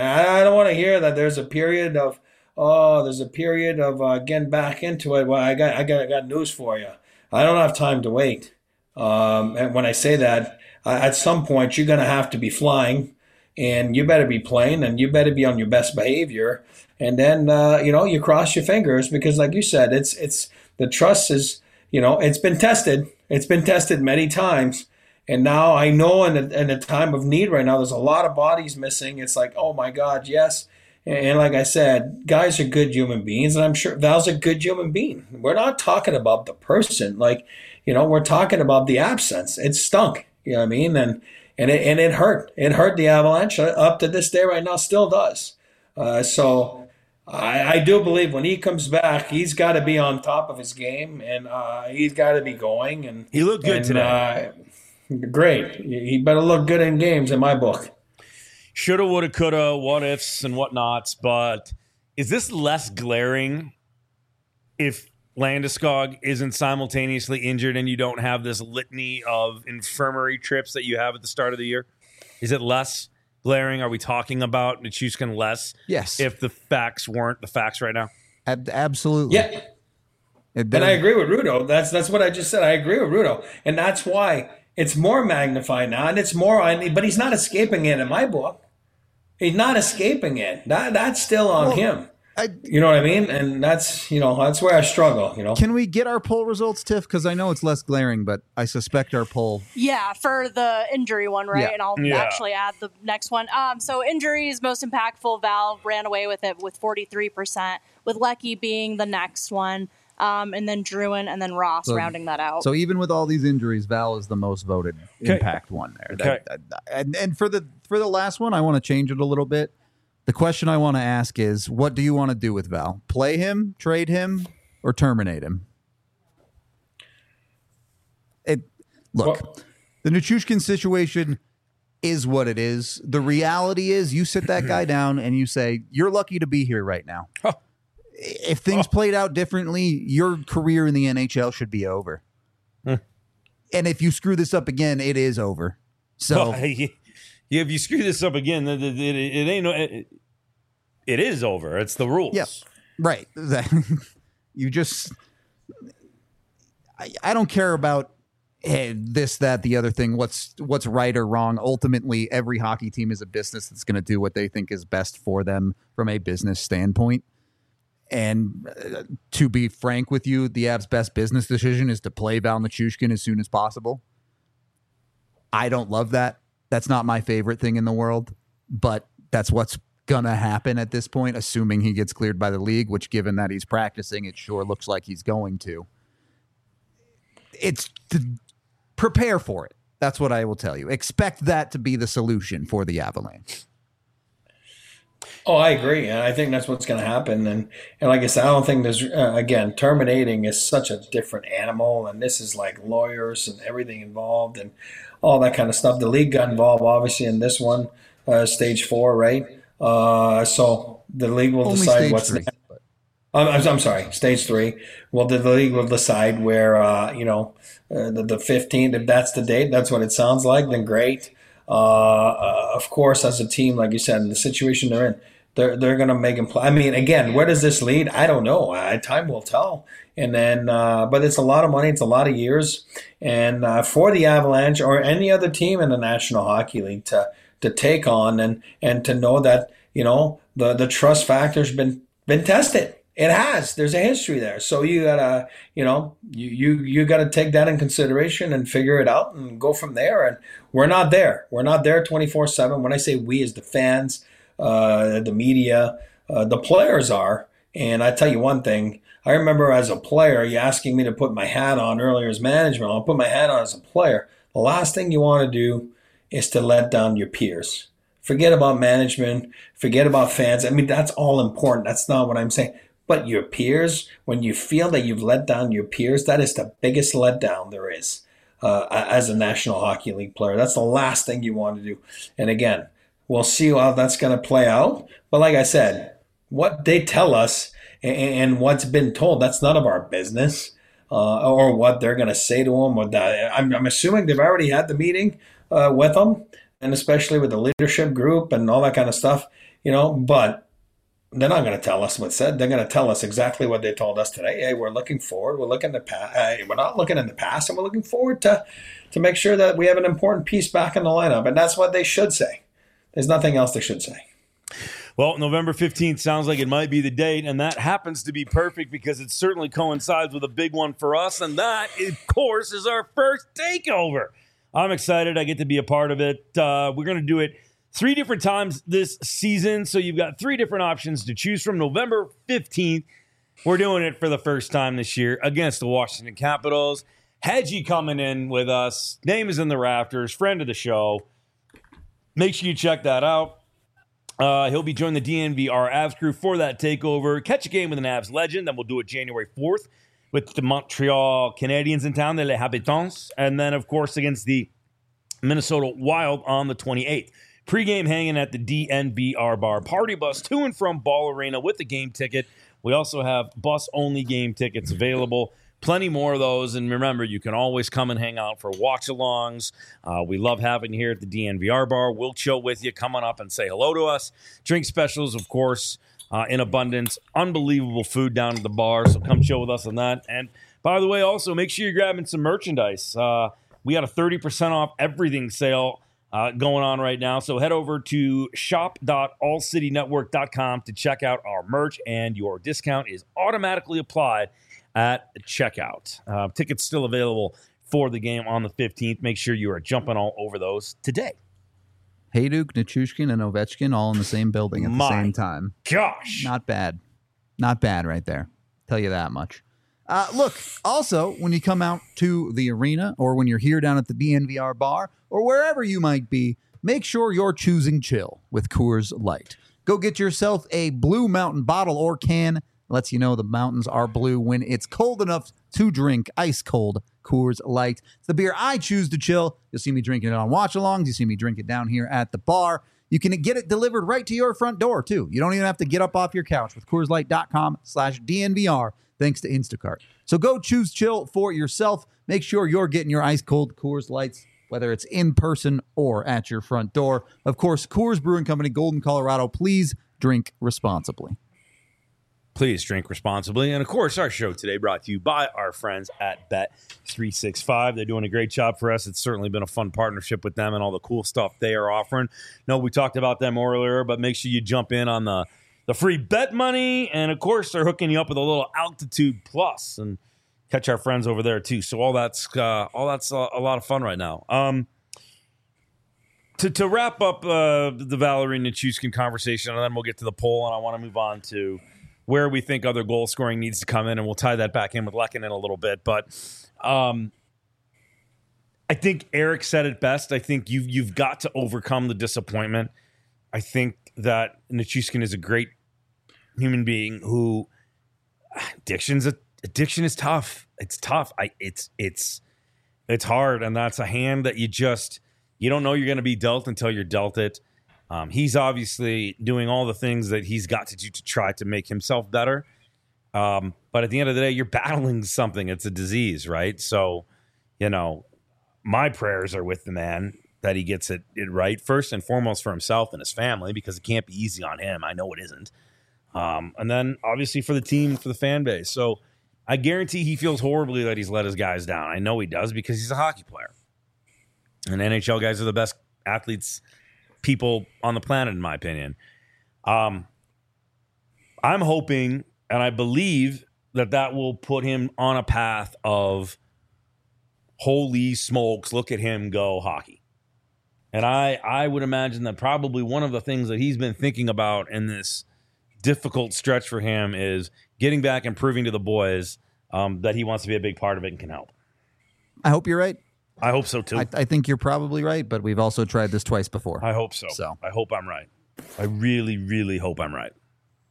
Speaker 4: I don't want to hear that there's a period of, oh, there's a period of uh, getting back into it. Well, I got, I got, I got news for you. I don't have time to wait. Um, and when I say that, uh, at some point, you're going to have to be flying, and you better be playing, and you better be on your best behavior. And then, uh, you know, you cross your fingers, because like you said, it's it's the trust is, you know, it's been tested. It's been tested many times. And now I know in a, in a time of need right now, there's a lot of bodies missing. It's like, oh, my God, yes. And, and like I said, guys are good human beings. And I'm sure Val's a good human being. We're not talking about the person. Like, you know, we're talking about the absence. It stunk. You know what I mean? And, and, it, and it hurt. It hurt the Avalanche up to this day right now, still does. Uh, so... I, I do believe when he comes back, he's got to be on top of his game, and uh, he's got to be going. And
Speaker 1: he looked good
Speaker 4: and,
Speaker 1: today.
Speaker 4: Uh, great. He better look good in games in my book.
Speaker 1: Shoulda, woulda, coulda, what ifs and whatnots. But is this less glaring if Landeskog isn't simultaneously injured and you don't have this litany of infirmary trips that you have at the start of the year? Is it less? glaring? Are we talking about Nichushkin less?
Speaker 2: Yes.
Speaker 1: If the facts weren't the facts right now?
Speaker 2: Ab- absolutely.
Speaker 4: Yeah. And I agree with Rudo. That's that's what I just said. I agree with Rudo. And that's why it's more magnified now. And it's more, but he's not escaping it in my book. He's not escaping it. That That's still on well, him. I, you know what I mean? And that's, you know, that's where I struggle, you know.
Speaker 2: Can we get our poll results, Tiff? Because I know it's less glaring, but I suspect our poll.
Speaker 3: Yeah, for the injury one, right?
Speaker 2: Yeah.
Speaker 3: And I'll
Speaker 1: yeah.
Speaker 3: actually add the next one. Um, so injuries, most impactful, Val ran away with it with forty-three percent, with Lecky being the next one, um, and then Druin, and then Ross so, rounding that out.
Speaker 2: So even with all these injuries, Val is the most voted
Speaker 1: okay.
Speaker 2: impact one there.
Speaker 1: Okay.
Speaker 2: That, that, and, and for the for the last one, I want to change it a little bit. The question I want to ask is, what do you want to do with Val? Play him, trade him, or terminate him? It Look, well, the Nichushkin situation is what it is. The reality is you sit that guy down and you say, you're lucky to be here right now.
Speaker 1: Oh.
Speaker 2: If things oh. played out differently, your career in the N H L should be over. Hmm. And if you screw this up again, it is over. So...
Speaker 1: Well, yeah, if you screw this up again, it, it, it, it ain't no. It, it is over. It's the rules.
Speaker 2: Yeah, right. You just. I, I don't care about hey, this, that, the other thing. What's what's right or wrong? Ultimately, every hockey team is a business that's going to do what they think is best for them from a business standpoint. And uh, to be frank with you, the Avs' best business decision is to play Val Nichushkin as soon as possible. I don't love that. That's not my favorite thing in the world, but that's what's going to happen at this point, assuming he gets cleared by the league, which given that he's practicing, it sure looks like he's going to. It's to prepare for it. That's what I will tell you. Expect that to be the solution for the Avalanche.
Speaker 4: Oh, I agree. And I think that's what's going to happen. And, and like I said, I don't think there's, uh, again, terminating is such a different animal. And this is like lawyers and everything involved and all that kind of stuff. The league got involved, obviously, in this one, uh, stage four, right? Uh, so the league will
Speaker 2: Only
Speaker 4: decide what's
Speaker 2: three,
Speaker 4: next. I'm, I'm sorry, stage three. Well, the, the league will decide where, uh, you know, uh, the, the fifteenth, if that's the date, that's what it sounds like, then great. Uh, uh, of course, as a team, like you said, in the situation they're in, they're they're going to make them play. I mean, again, where does this lead? I don't know. Uh, time will tell. And then, uh, but it's a lot of money. It's a lot of years. And uh, for the Avalanche or any other team in the National Hockey League to to take on and and to know that, you know, the the trust factor's been been tested. It has. There's a history there. So you gotta, you know, you you you gotta take that in consideration and figure it out and go from there. And we're not there. We're not there twenty-four seven. When I say we, as the fans, uh, the media, uh, the players are. And I tell you one thing. I remember as a player, you asking me to put my hat on earlier as management. I'll put my hat on as a player. The last thing you want to do is to let down your peers. Forget about management. Forget about fans. I mean, that's all important. That's not what I'm saying. But your peers, when you feel that you've let down your peers, that is the biggest letdown there is uh, as a National Hockey League player. That's the last thing you want to do. And again, we'll see how that's going to play out. But like I said, what they tell us and what's been told, that's none of our business. Uh, or what they're going to say to them. Or that. I'm, I'm assuming they've already had the meeting uh, with them, and especially with the leadership group and all that kind of stuff, you know, but they're not going to tell us what's said. They're going to tell us exactly what they told us today. Hey, we're looking forward. We're looking to past. Hey, we're not looking in the past, and we're looking forward to to make sure that we have an important piece back in the lineup. And that's what they should say. There's nothing else they should say.
Speaker 1: Well, November fifteenth sounds like it might be the date, and that happens to be perfect because it certainly coincides with a big one for us, and that, of course, is our first takeover. I'm excited. I get to be a part of it. Uh, we're going to do it three different times this season, so you've got three different options to choose from. November fifteenth, we're doing it for the first time this year against the Washington Capitals. Hedgie coming in with us. Name is in the rafters. Friend of the show. Make sure you check that out. Uh, he'll be joining the D N V R Avs crew for that takeover. Catch a game with an Avs legend. Then we'll do it January fourth with the Montreal Canadiens in town, the Les Habitants. And then, of course, against the Minnesota Wild on the twenty-eighth. Pre-game hanging at the D N V R bar. Party bus to and from Ball Arena with the game ticket. We also have bus-only game tickets available plenty more of those. And remember, you can always come and hang out for watch-alongs. Uh, we love having you here at the D N V R bar. We'll chill with you. Come on up and say hello to us. Drink specials, of course, uh, in abundance. Unbelievable food down at the bar, so come chill with us on that. And by the way, also, make sure you're grabbing some merchandise. Uh, we got a thirty percent off everything sale uh, going on right now. So head over to shop dot all city network dot com to check out our merch, and your discount is automatically applied at checkout. Uh, tickets still available for the game on the fifteenth. Make sure you are jumping all over those today.
Speaker 2: Hayduk, Nichushkin, and Ovechkin all in the same building at the
Speaker 1: My
Speaker 2: same time.
Speaker 1: Gosh.
Speaker 2: Not bad. Not bad right there. Tell you that much. Uh, look, also, when you come out to the arena or when you're here down at the D N V R bar or wherever you might be, make sure you're choosing chill with Coors Light. Go get yourself a Blue Mountain bottle or can. Lets you know the mountains are blue when it's cold enough to drink ice cold Coors Light. It's the beer I choose to chill. You'll see me drinking it on watch-alongs. You see me drink it down here at the bar. You can get it delivered right to your front door, too. You don't even have to get up off your couch with Coors Light dot com slash D N V R, thanks to Instacart. So go choose chill for yourself. Make sure you're getting your ice-cold Coors Lights, whether it's in person or at your front door. Of course, Coors Brewing Company, Golden, Colorado. Please drink responsibly.
Speaker 1: Please drink responsibly. And, of course, our show today brought to you by our friends at Bet three sixty-five. They're doing a great job for us. It's certainly been a fun partnership with them and all the cool stuff they are offering. No, we talked about them earlier, but make sure you jump in on the, the free bet money. And, of course, they're hooking you up with a little Altitude Plus and catch our friends over there, too. So all that's uh, all that's a, a lot of fun right now. Um, to, to wrap up uh, the Valeri Nichushkin conversation, and then we'll get to the poll, and I want to move on to where we think other goal scoring needs to come in, and we'll tie that back in with Lehkonen in a little bit. But um, I think Eric said it best. I think you've, you've got to overcome the disappointment. I think that Nichushkin is a great human being who addiction's a, addiction is tough. It's tough. I it's it's it's hard, and that's a hand that you just you don't know you're going to be dealt until you're dealt it. Um, he's obviously doing all the things that he's got to do to try to make himself better. Um, but at the end of the day, you're battling something. It's a disease, right? So, you know, my prayers are with the man that he gets it, it right, first and foremost for himself and his family, because it can't be easy on him. I know it isn't. Um, and then obviously for the team, for the fan base. So I guarantee he feels horribly that he's let his guys down. I know he does because he's a hockey player. And N H L guys are the best athletes people on the planet, in my opinion. Um, I'm hoping, and I believe that that will put him on a path of holy smokes, look at him go hockey. And I, I would imagine that probably one of the things that he's been thinking about in this difficult stretch for him is getting back and proving to the boys um, that he wants to be a big part of it and can help.
Speaker 2: I hope you're right.
Speaker 1: I hope so, too.
Speaker 2: I, I think you're probably right, but we've also tried this twice before.
Speaker 1: I hope so.
Speaker 2: So
Speaker 1: I hope I'm right. I really, really hope I'm right.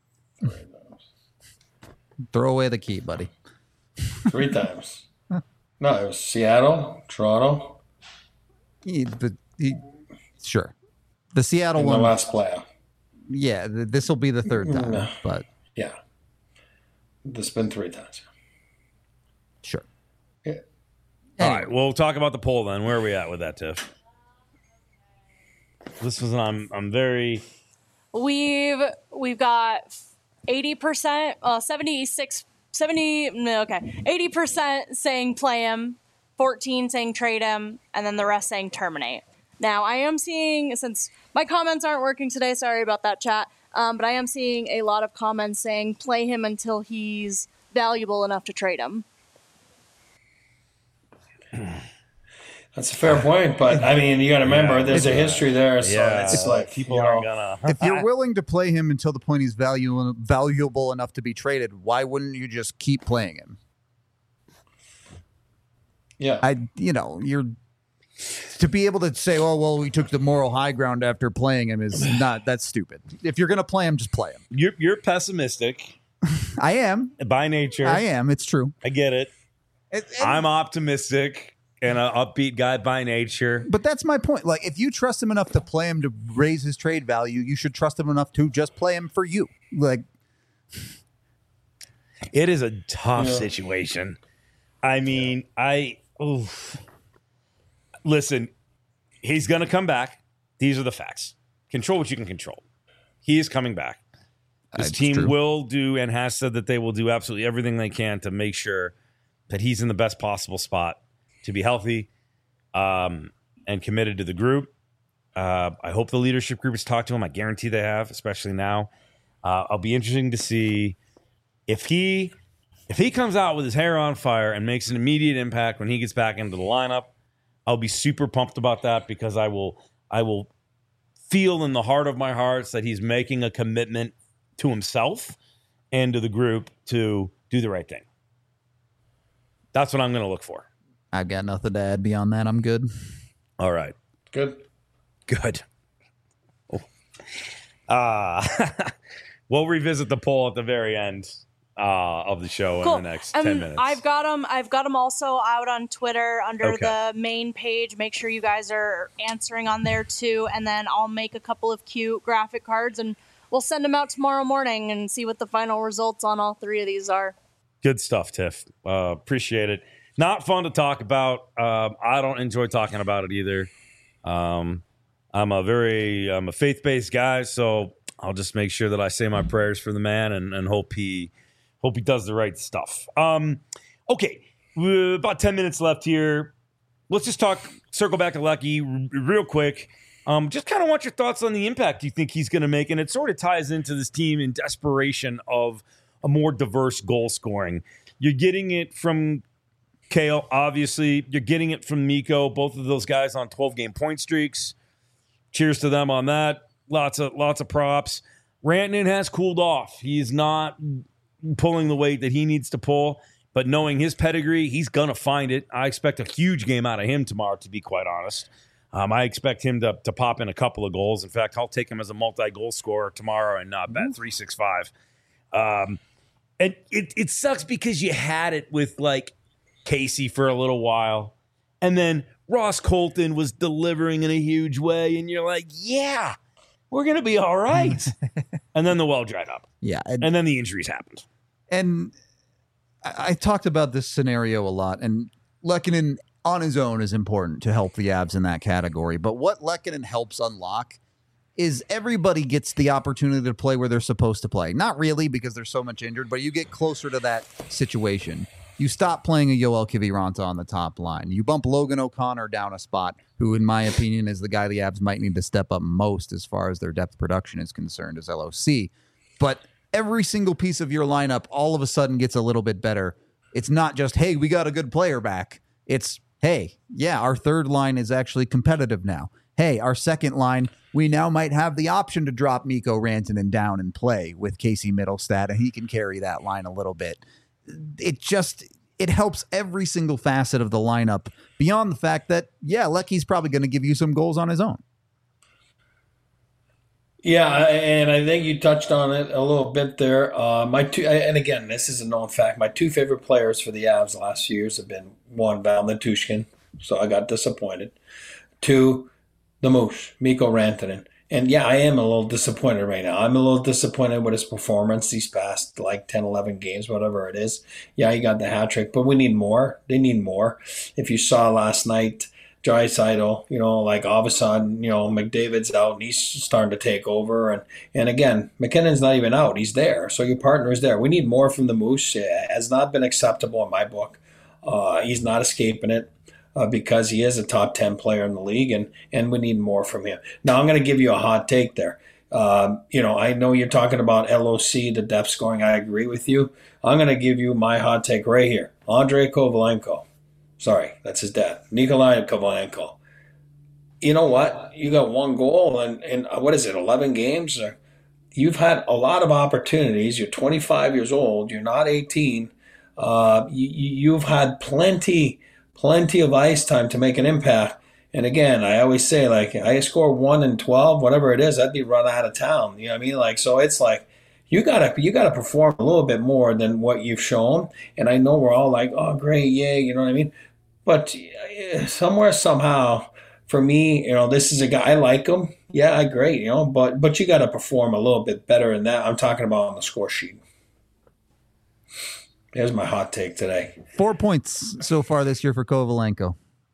Speaker 2: Throw away the key, buddy.
Speaker 4: Three times. No, it was Seattle, Toronto.
Speaker 2: He, the, he, sure. The Seattle
Speaker 4: and
Speaker 2: one.
Speaker 4: the last playoff.
Speaker 2: Yeah, th- this will be the third time,
Speaker 4: No.
Speaker 2: but
Speaker 4: Yeah. This has been three times.
Speaker 2: sure.
Speaker 4: Yeah.
Speaker 1: All right, we'll talk about the poll then. Where are we at with that, Tiff? This was I'm I'm very
Speaker 3: We've we've got eighty percent, uh, seventy-six, seventy, no, okay, eighty percent saying play him, fourteen saying trade him, and then the rest saying terminate. Now, I am seeing, since my comments aren't working today, sorry about that, chat, um, but I am seeing a lot of comments saying play him until he's valuable enough to trade him.
Speaker 4: That's a fair point, but I mean, you got to remember,
Speaker 1: Yeah,
Speaker 4: there's a history there, so
Speaker 1: yeah,
Speaker 4: it's like
Speaker 1: people
Speaker 4: you know,
Speaker 1: aren't gonna.
Speaker 2: If you're willing to play him until the point he's value, valuable enough to be traded, why wouldn't you just keep playing him?
Speaker 4: Yeah,
Speaker 2: I, you know, you're to be able to say, "Oh, well, we took the moral high ground after playing him," is not that's stupid. If you're gonna play him, just play him.
Speaker 1: You're you're pessimistic
Speaker 2: I am.
Speaker 1: by nature.
Speaker 2: I am. It's true.
Speaker 1: I get it.
Speaker 2: And- and-
Speaker 1: I'm optimistic and an upbeat guy by nature.
Speaker 2: But that's my point. Like, if you trust him enough to play him to raise his trade value, you should trust him enough to just play him for you. Like,
Speaker 1: It is a tough
Speaker 4: Yeah.
Speaker 1: situation. I mean, I oof. Listen. He's going to come back. These are the facts. Control what you can control. He is coming back. This
Speaker 2: That's
Speaker 1: team
Speaker 2: true.
Speaker 1: will do and has said that they will do absolutely everything they can to make sure that he's in the best possible spot to be healthy um, and committed to the group. Uh, I hope the leadership group has talked to him. I guarantee they have, especially now. Uh, I'll be interesting to see if he if he comes out with his hair on fire and makes an immediate impact when he gets back into the lineup. I'll be super pumped about that because I will I will feel in the heart of my hearts that he's making a commitment to himself and to the group to do the right thing. That's what I'm going to look for.
Speaker 2: I've got nothing to add beyond that. I'm good.
Speaker 1: All right.
Speaker 4: Good.
Speaker 1: Good. Oh. Uh, we'll revisit the poll at the very end uh, of the show
Speaker 3: Cool.
Speaker 1: in the next
Speaker 3: Um,
Speaker 1: ten minutes.
Speaker 3: I've got them. I've got them also out on Twitter under
Speaker 1: Okay.
Speaker 3: the main page. Make sure you guys are answering on there too, and then I'll make a couple of cute graphic cards and we'll send them out tomorrow morning and see what the final results on all three of these are.
Speaker 1: Good stuff, Tiff. Uh, appreciate it. Not fun to talk about. Um, I don't enjoy talking about it either. Um, I'm a very I'm a faith-based guy, so I'll just make sure that I say my prayers for the man and, and hope he hope he does the right stuff. Um, okay, we're about ten minutes left here. Let's just talk. Circle back to Lucky r- real quick. Um, just kind of want your thoughts on the impact you think he's going to make, and it sort of ties into this team in desperation of a more diverse goal scoring. You're getting it from Kale, obviously. You're getting it from Mikko. Both of those guys on twelve-game point streaks. Cheers to them on that. Lots of lots of props. Rantanen has cooled off. He's not pulling the weight that he needs to pull, but knowing his pedigree, he's going to find it. I expect a huge game out of him tomorrow, to be quite honest. Um, I expect him to, to pop in a couple of goals. In fact, I'll take him as a multi-goal scorer tomorrow and uh, bet three sixty-five. Um, and it, it sucks because you had it with, like, Casey for a little while. And then Ross Colton was delivering in a huge way. And you're like, yeah, we're going to be all right. And then the well dried up.
Speaker 2: Yeah. And,
Speaker 1: And then the injuries happened.
Speaker 2: and I, I talked about this scenario a lot, and Lehkonen on his own is important to help the Avs in that category. But what Lehkonen helps unlock is everybody gets the opportunity to play where they're supposed to play. Not really because there's so much injured, but you get closer to that situation. You stop playing a Yoel Kiviranta on the top line. You bump Logan O'Connor down a spot, who, in my opinion, is the guy the Avs might need to step up most as far as their depth production is concerned as L O C. But every single piece of your lineup all of a sudden gets a little bit better. It's not just, hey, we got a good player back. It's, hey, yeah, our third line is actually competitive now. Hey, our second line, we now might have the option to drop Mikko Rantanen down and play with Casey Middlestat, and he can carry that line a little bit. It just, it helps every single facet of the lineup beyond the fact that, yeah, Lecky's probably going to give you some goals on his own.
Speaker 4: Yeah, and I think you touched on it a little bit there. Uh, my two, and again, this is a known fact. My two favorite players for the Avs the last few years have been one, Val Nichushkin, so I got disappointed. Two, the Moosh, Mikko Rantanen. And yeah, I am a little disappointed right now. I'm a little disappointed with his performance these past like ten, eleven games, whatever it is. Yeah, he got the hat trick, but we need more. They need more. If you saw last night, Draisaitl, you know, like all of a sudden, you know, McDavid's out and he's starting to take over. And, and again, McKinnon's not even out. He's there. So your partner is there. We need more from the Moose. It has not been acceptable in my book. Uh, he's not escaping it. Uh, because he is a top ten player in the league, and, and we need more from him. Now, I'm going to give you a hot take there. Um, you know, I know you're talking about L O C, the depth scoring. I agree with you. I'm going to give you my hot take right here. Andrei Kovalenko. Sorry, that's his dad. Nikolai Kovalenko. You know what? You got one goal in, in what is it, eleven games? You've had a lot of opportunities. You're twenty-five years old. You're not eighteen. Uh, you, you've had plenty Plenty of ice time to make an impact. And again, I always say, like, I score one in twelve, whatever it is, I'd be run out of town. You know what I mean? Like, so it's like you gotta you gotta perform a little bit more than what you've shown. And I know we're all like, oh, great, yay, you know what I mean? But somewhere, somehow, for me, you know, this is a guy, I like him. Yeah, great, you know, but but you gotta perform a little bit better than that. I'm talking about on the score sheet. There's my hot take today.
Speaker 2: Four points so far this year for Kovalenko.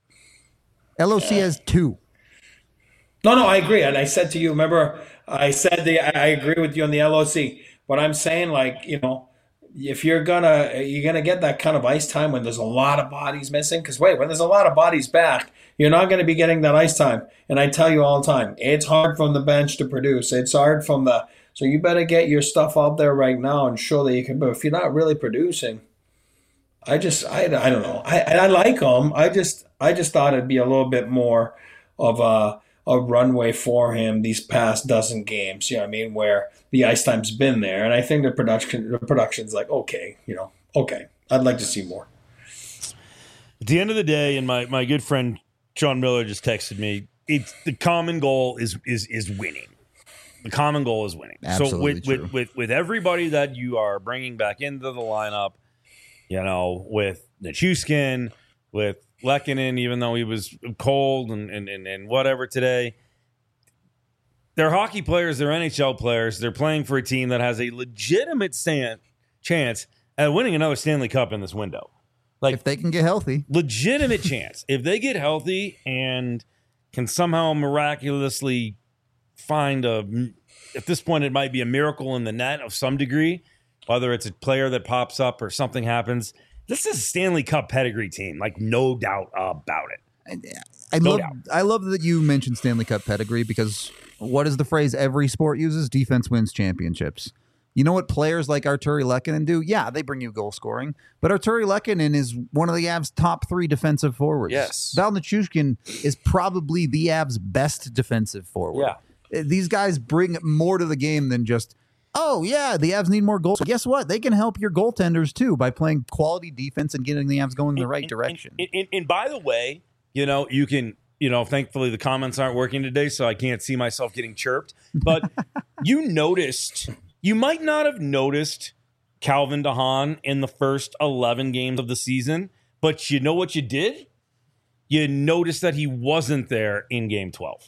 Speaker 2: L O C has two.
Speaker 4: No, no, I agree. And I said to you, remember, I said the I agree with you on the L O C. But I'm saying, like, you know, if you're gonna you're gonna get that kind of ice time when there's a lot of bodies missing, because wait, when there's a lot of bodies back, you're not going to be getting that ice time. And I tell you all the time, it's hard from the bench to produce. It's hard from the so you better get your stuff out there right now and show that you can. But if you're not really producing, I just I, I don't know. I I like them. I just I just thought it'd be a little bit more of a a runway for him these past dozen games. You know what I mean? Where the ice time's been there, and I think the production the production's like okay, you know, okay. I'd like to see more.
Speaker 1: At the end of the day, and my, my good friend Sean Miller just texted me, it's the common goal is is is winning. The common goal is winning.
Speaker 2: Absolutely
Speaker 1: so with,
Speaker 2: true.
Speaker 1: with with with everybody that you are bringing back into the lineup, you know, with Nichushkin, with Lehkonen, even though he was cold and, and, and, and whatever today, they're hockey players, they're N H L players, they're playing for a team that has a legitimate stand, chance at winning another Stanley Cup in this window. Like,
Speaker 2: If they can get healthy.
Speaker 1: legitimate chance. If they get healthy and can somehow miraculously find a, at this point, it might be a miracle in the net of some degree, whether it's a player that pops up or something happens. This is a Stanley Cup pedigree team, like no doubt about it.
Speaker 2: I
Speaker 1: No
Speaker 2: love
Speaker 1: doubt.
Speaker 2: I love that you mentioned Stanley Cup pedigree because what is the phrase every sport uses? Defense wins championships. You know what players like Arturi Lehkonen do? Yeah, they bring you goal scoring. But Arturi Lehkonen is one of the Avs' top three defensive forwards.
Speaker 1: Yes.
Speaker 2: Val Nichushkin is probably the Avs' best defensive forward.
Speaker 1: Yeah.
Speaker 2: Uh, These guys bring more to the game than just, oh, yeah, the Avs need more goals. Guess what? They can help your goaltenders, too, by playing quality defense and getting the Avs going in the right
Speaker 1: And-
Speaker 2: direction.
Speaker 1: And, and, and by the way, you know, you can, you know, thankfully the comments aren't working today, so I can't see myself getting chirped. But you noticed, you might not have noticed Calvin DeHaan in the first eleven games of the season, but you know what you did? You noticed that he wasn't there in game twelve.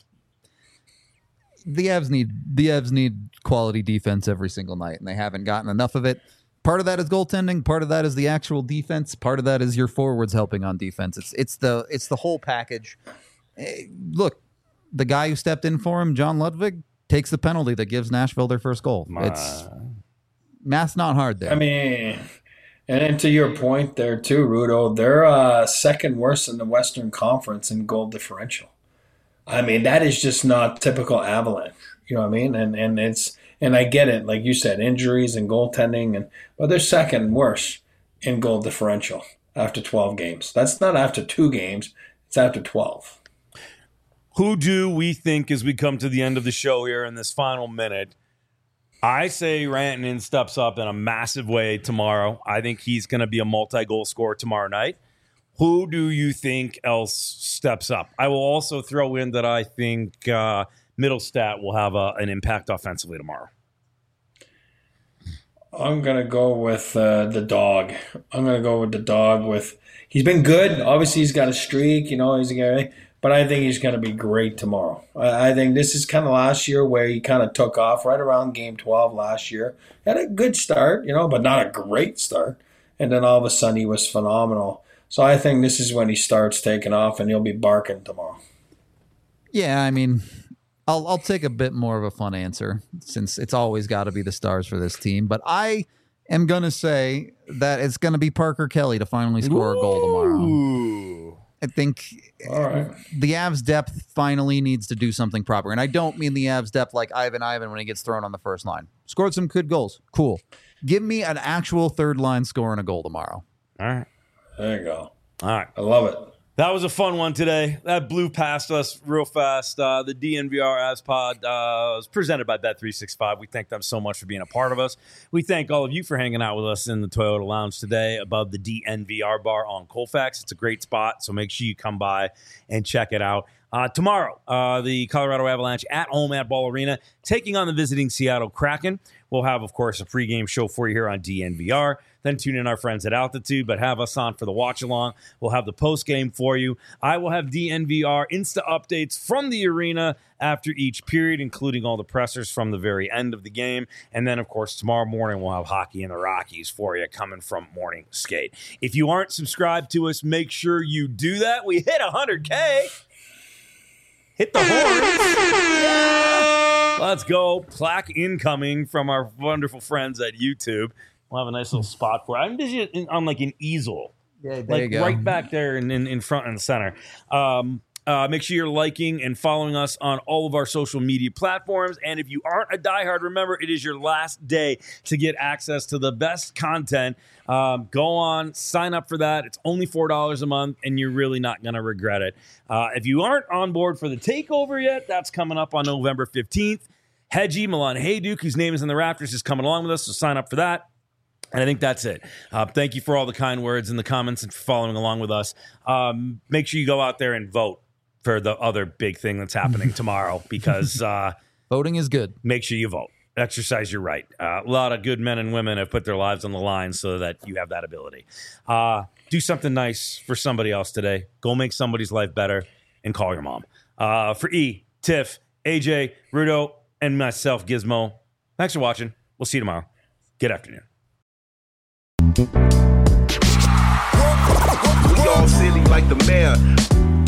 Speaker 2: the Avs need the Avs need quality defense every single night, and they haven't gotten enough of it. Part of that is goaltending. Part of that is the actual defense. Part of that is your forwards helping on defense. It's it's the it's the whole package. Eh, Look, the guy who stepped in for him, John Ludwig, takes the penalty that gives Nashville their first goal. It's math's not hard there.
Speaker 4: I mean, and then to your point there too, Rudo, they're uh, second worst in the Western Conference in goal differential. I mean, that is just not typical Avalanche. You know what I mean? And and it's and I get it, like you said, injuries and goaltending, and but they're second worst in goal differential after twelve games. That's not after two games; it's after twelve.
Speaker 1: Who do we think as we come to the end of the show here in this final minute? I say Rantanen steps up in a massive way tomorrow. I think he's going to be a multi-goal scorer tomorrow night. Who do you think else steps up? I will also throw in that I think uh, Middlestat will have a, an impact offensively tomorrow.
Speaker 4: I'm gonna go with uh, the dog. I'm gonna go with the dog. With he's been good. Obviously, he's got a streak. You know, he's a guy. But I think he's going to be great tomorrow. I, I think this is kind of last year where he kind of took off right around game twelve last year. Had a good start, you know, but not a great start. And then all of a sudden he was phenomenal. So I think this is when he starts taking off, and he'll be barking tomorrow.
Speaker 2: Yeah, I mean, I'll I'll take a bit more of a fun answer since it's always got to be the stars for this team. But I am going to say that it's going to be Parker Kelly to finally score a goal tomorrow.
Speaker 1: Ooh.
Speaker 2: I think
Speaker 4: All right.
Speaker 2: the Avs depth finally needs to do something proper. And I don't mean the Avs depth like Ivan Ivan when he gets thrown on the first line. Scored some good goals. Cool. Give me an actual third line scoring a goal tomorrow.
Speaker 1: All right.
Speaker 4: There you go.
Speaker 1: All right.
Speaker 4: I love it.
Speaker 1: That was a fun one today. That blew past us real fast. Uh, the D N V R Avs Pod uh, was presented by Bet three sixty-five. We thank them so much for being a part of us. We thank all of you for hanging out with us in the Toyota Lounge today above the D N V R bar on Colfax. It's a great spot, so make sure you come by and check it out. Uh, tomorrow, uh, the Colorado Avalanche at home at Ball Arena, taking on the visiting Seattle Kraken. We'll have, of course, a pregame show for you here on D N V R. Then tune in our friends at Altitude, but have us on for the watch-along. We'll have the postgame for you. I will have D N V R Insta updates from the arena after each period, including all the pressers from the very end of the game. And then, of course, tomorrow morning we'll have Hockey in the Rockies for you coming from Morning Skate. If you aren't subscribed to us, make sure you do that. We hit one hundred K. Hit the horns. Yeah. Let's go. Plaque incoming from our wonderful friends at YouTube. We'll have a nice little spot for it. I'm busy on like an easel.
Speaker 2: Yeah, there
Speaker 1: like
Speaker 2: you go.
Speaker 1: right back there in, in, in front and center. Um, uh, make sure you're liking and following us on all of our social media platforms. And if you aren't a diehard, remember, it is your last day to get access to the best content. Um, go on, sign up for that. It's only four dollars a month, and you're really not going to regret it. Uh, if you aren't on board for the takeover yet, that's coming up on November fifteenth. Hedgie, Milan Hayduk, whose name is in the rafters, is coming along with us, so sign up for that. And I think that's it. Uh, thank you for all the kind words in the comments and for following along with us. Um, make sure you go out there and vote for the other big thing that's happening tomorrow, because uh,
Speaker 2: Voting is good.
Speaker 1: make sure you vote. Exercise your right. Uh, a lot of good men and women have put their lives on the line so that you have that ability. Uh, do something nice for somebody else today. Go make somebody's life better and call your mom. Uh, for E, Tiff, A J, Rudo, and myself, Gizmo, thanks for watching. We'll see you tomorrow. Good afternoon.
Speaker 5: We all silly like the mayor.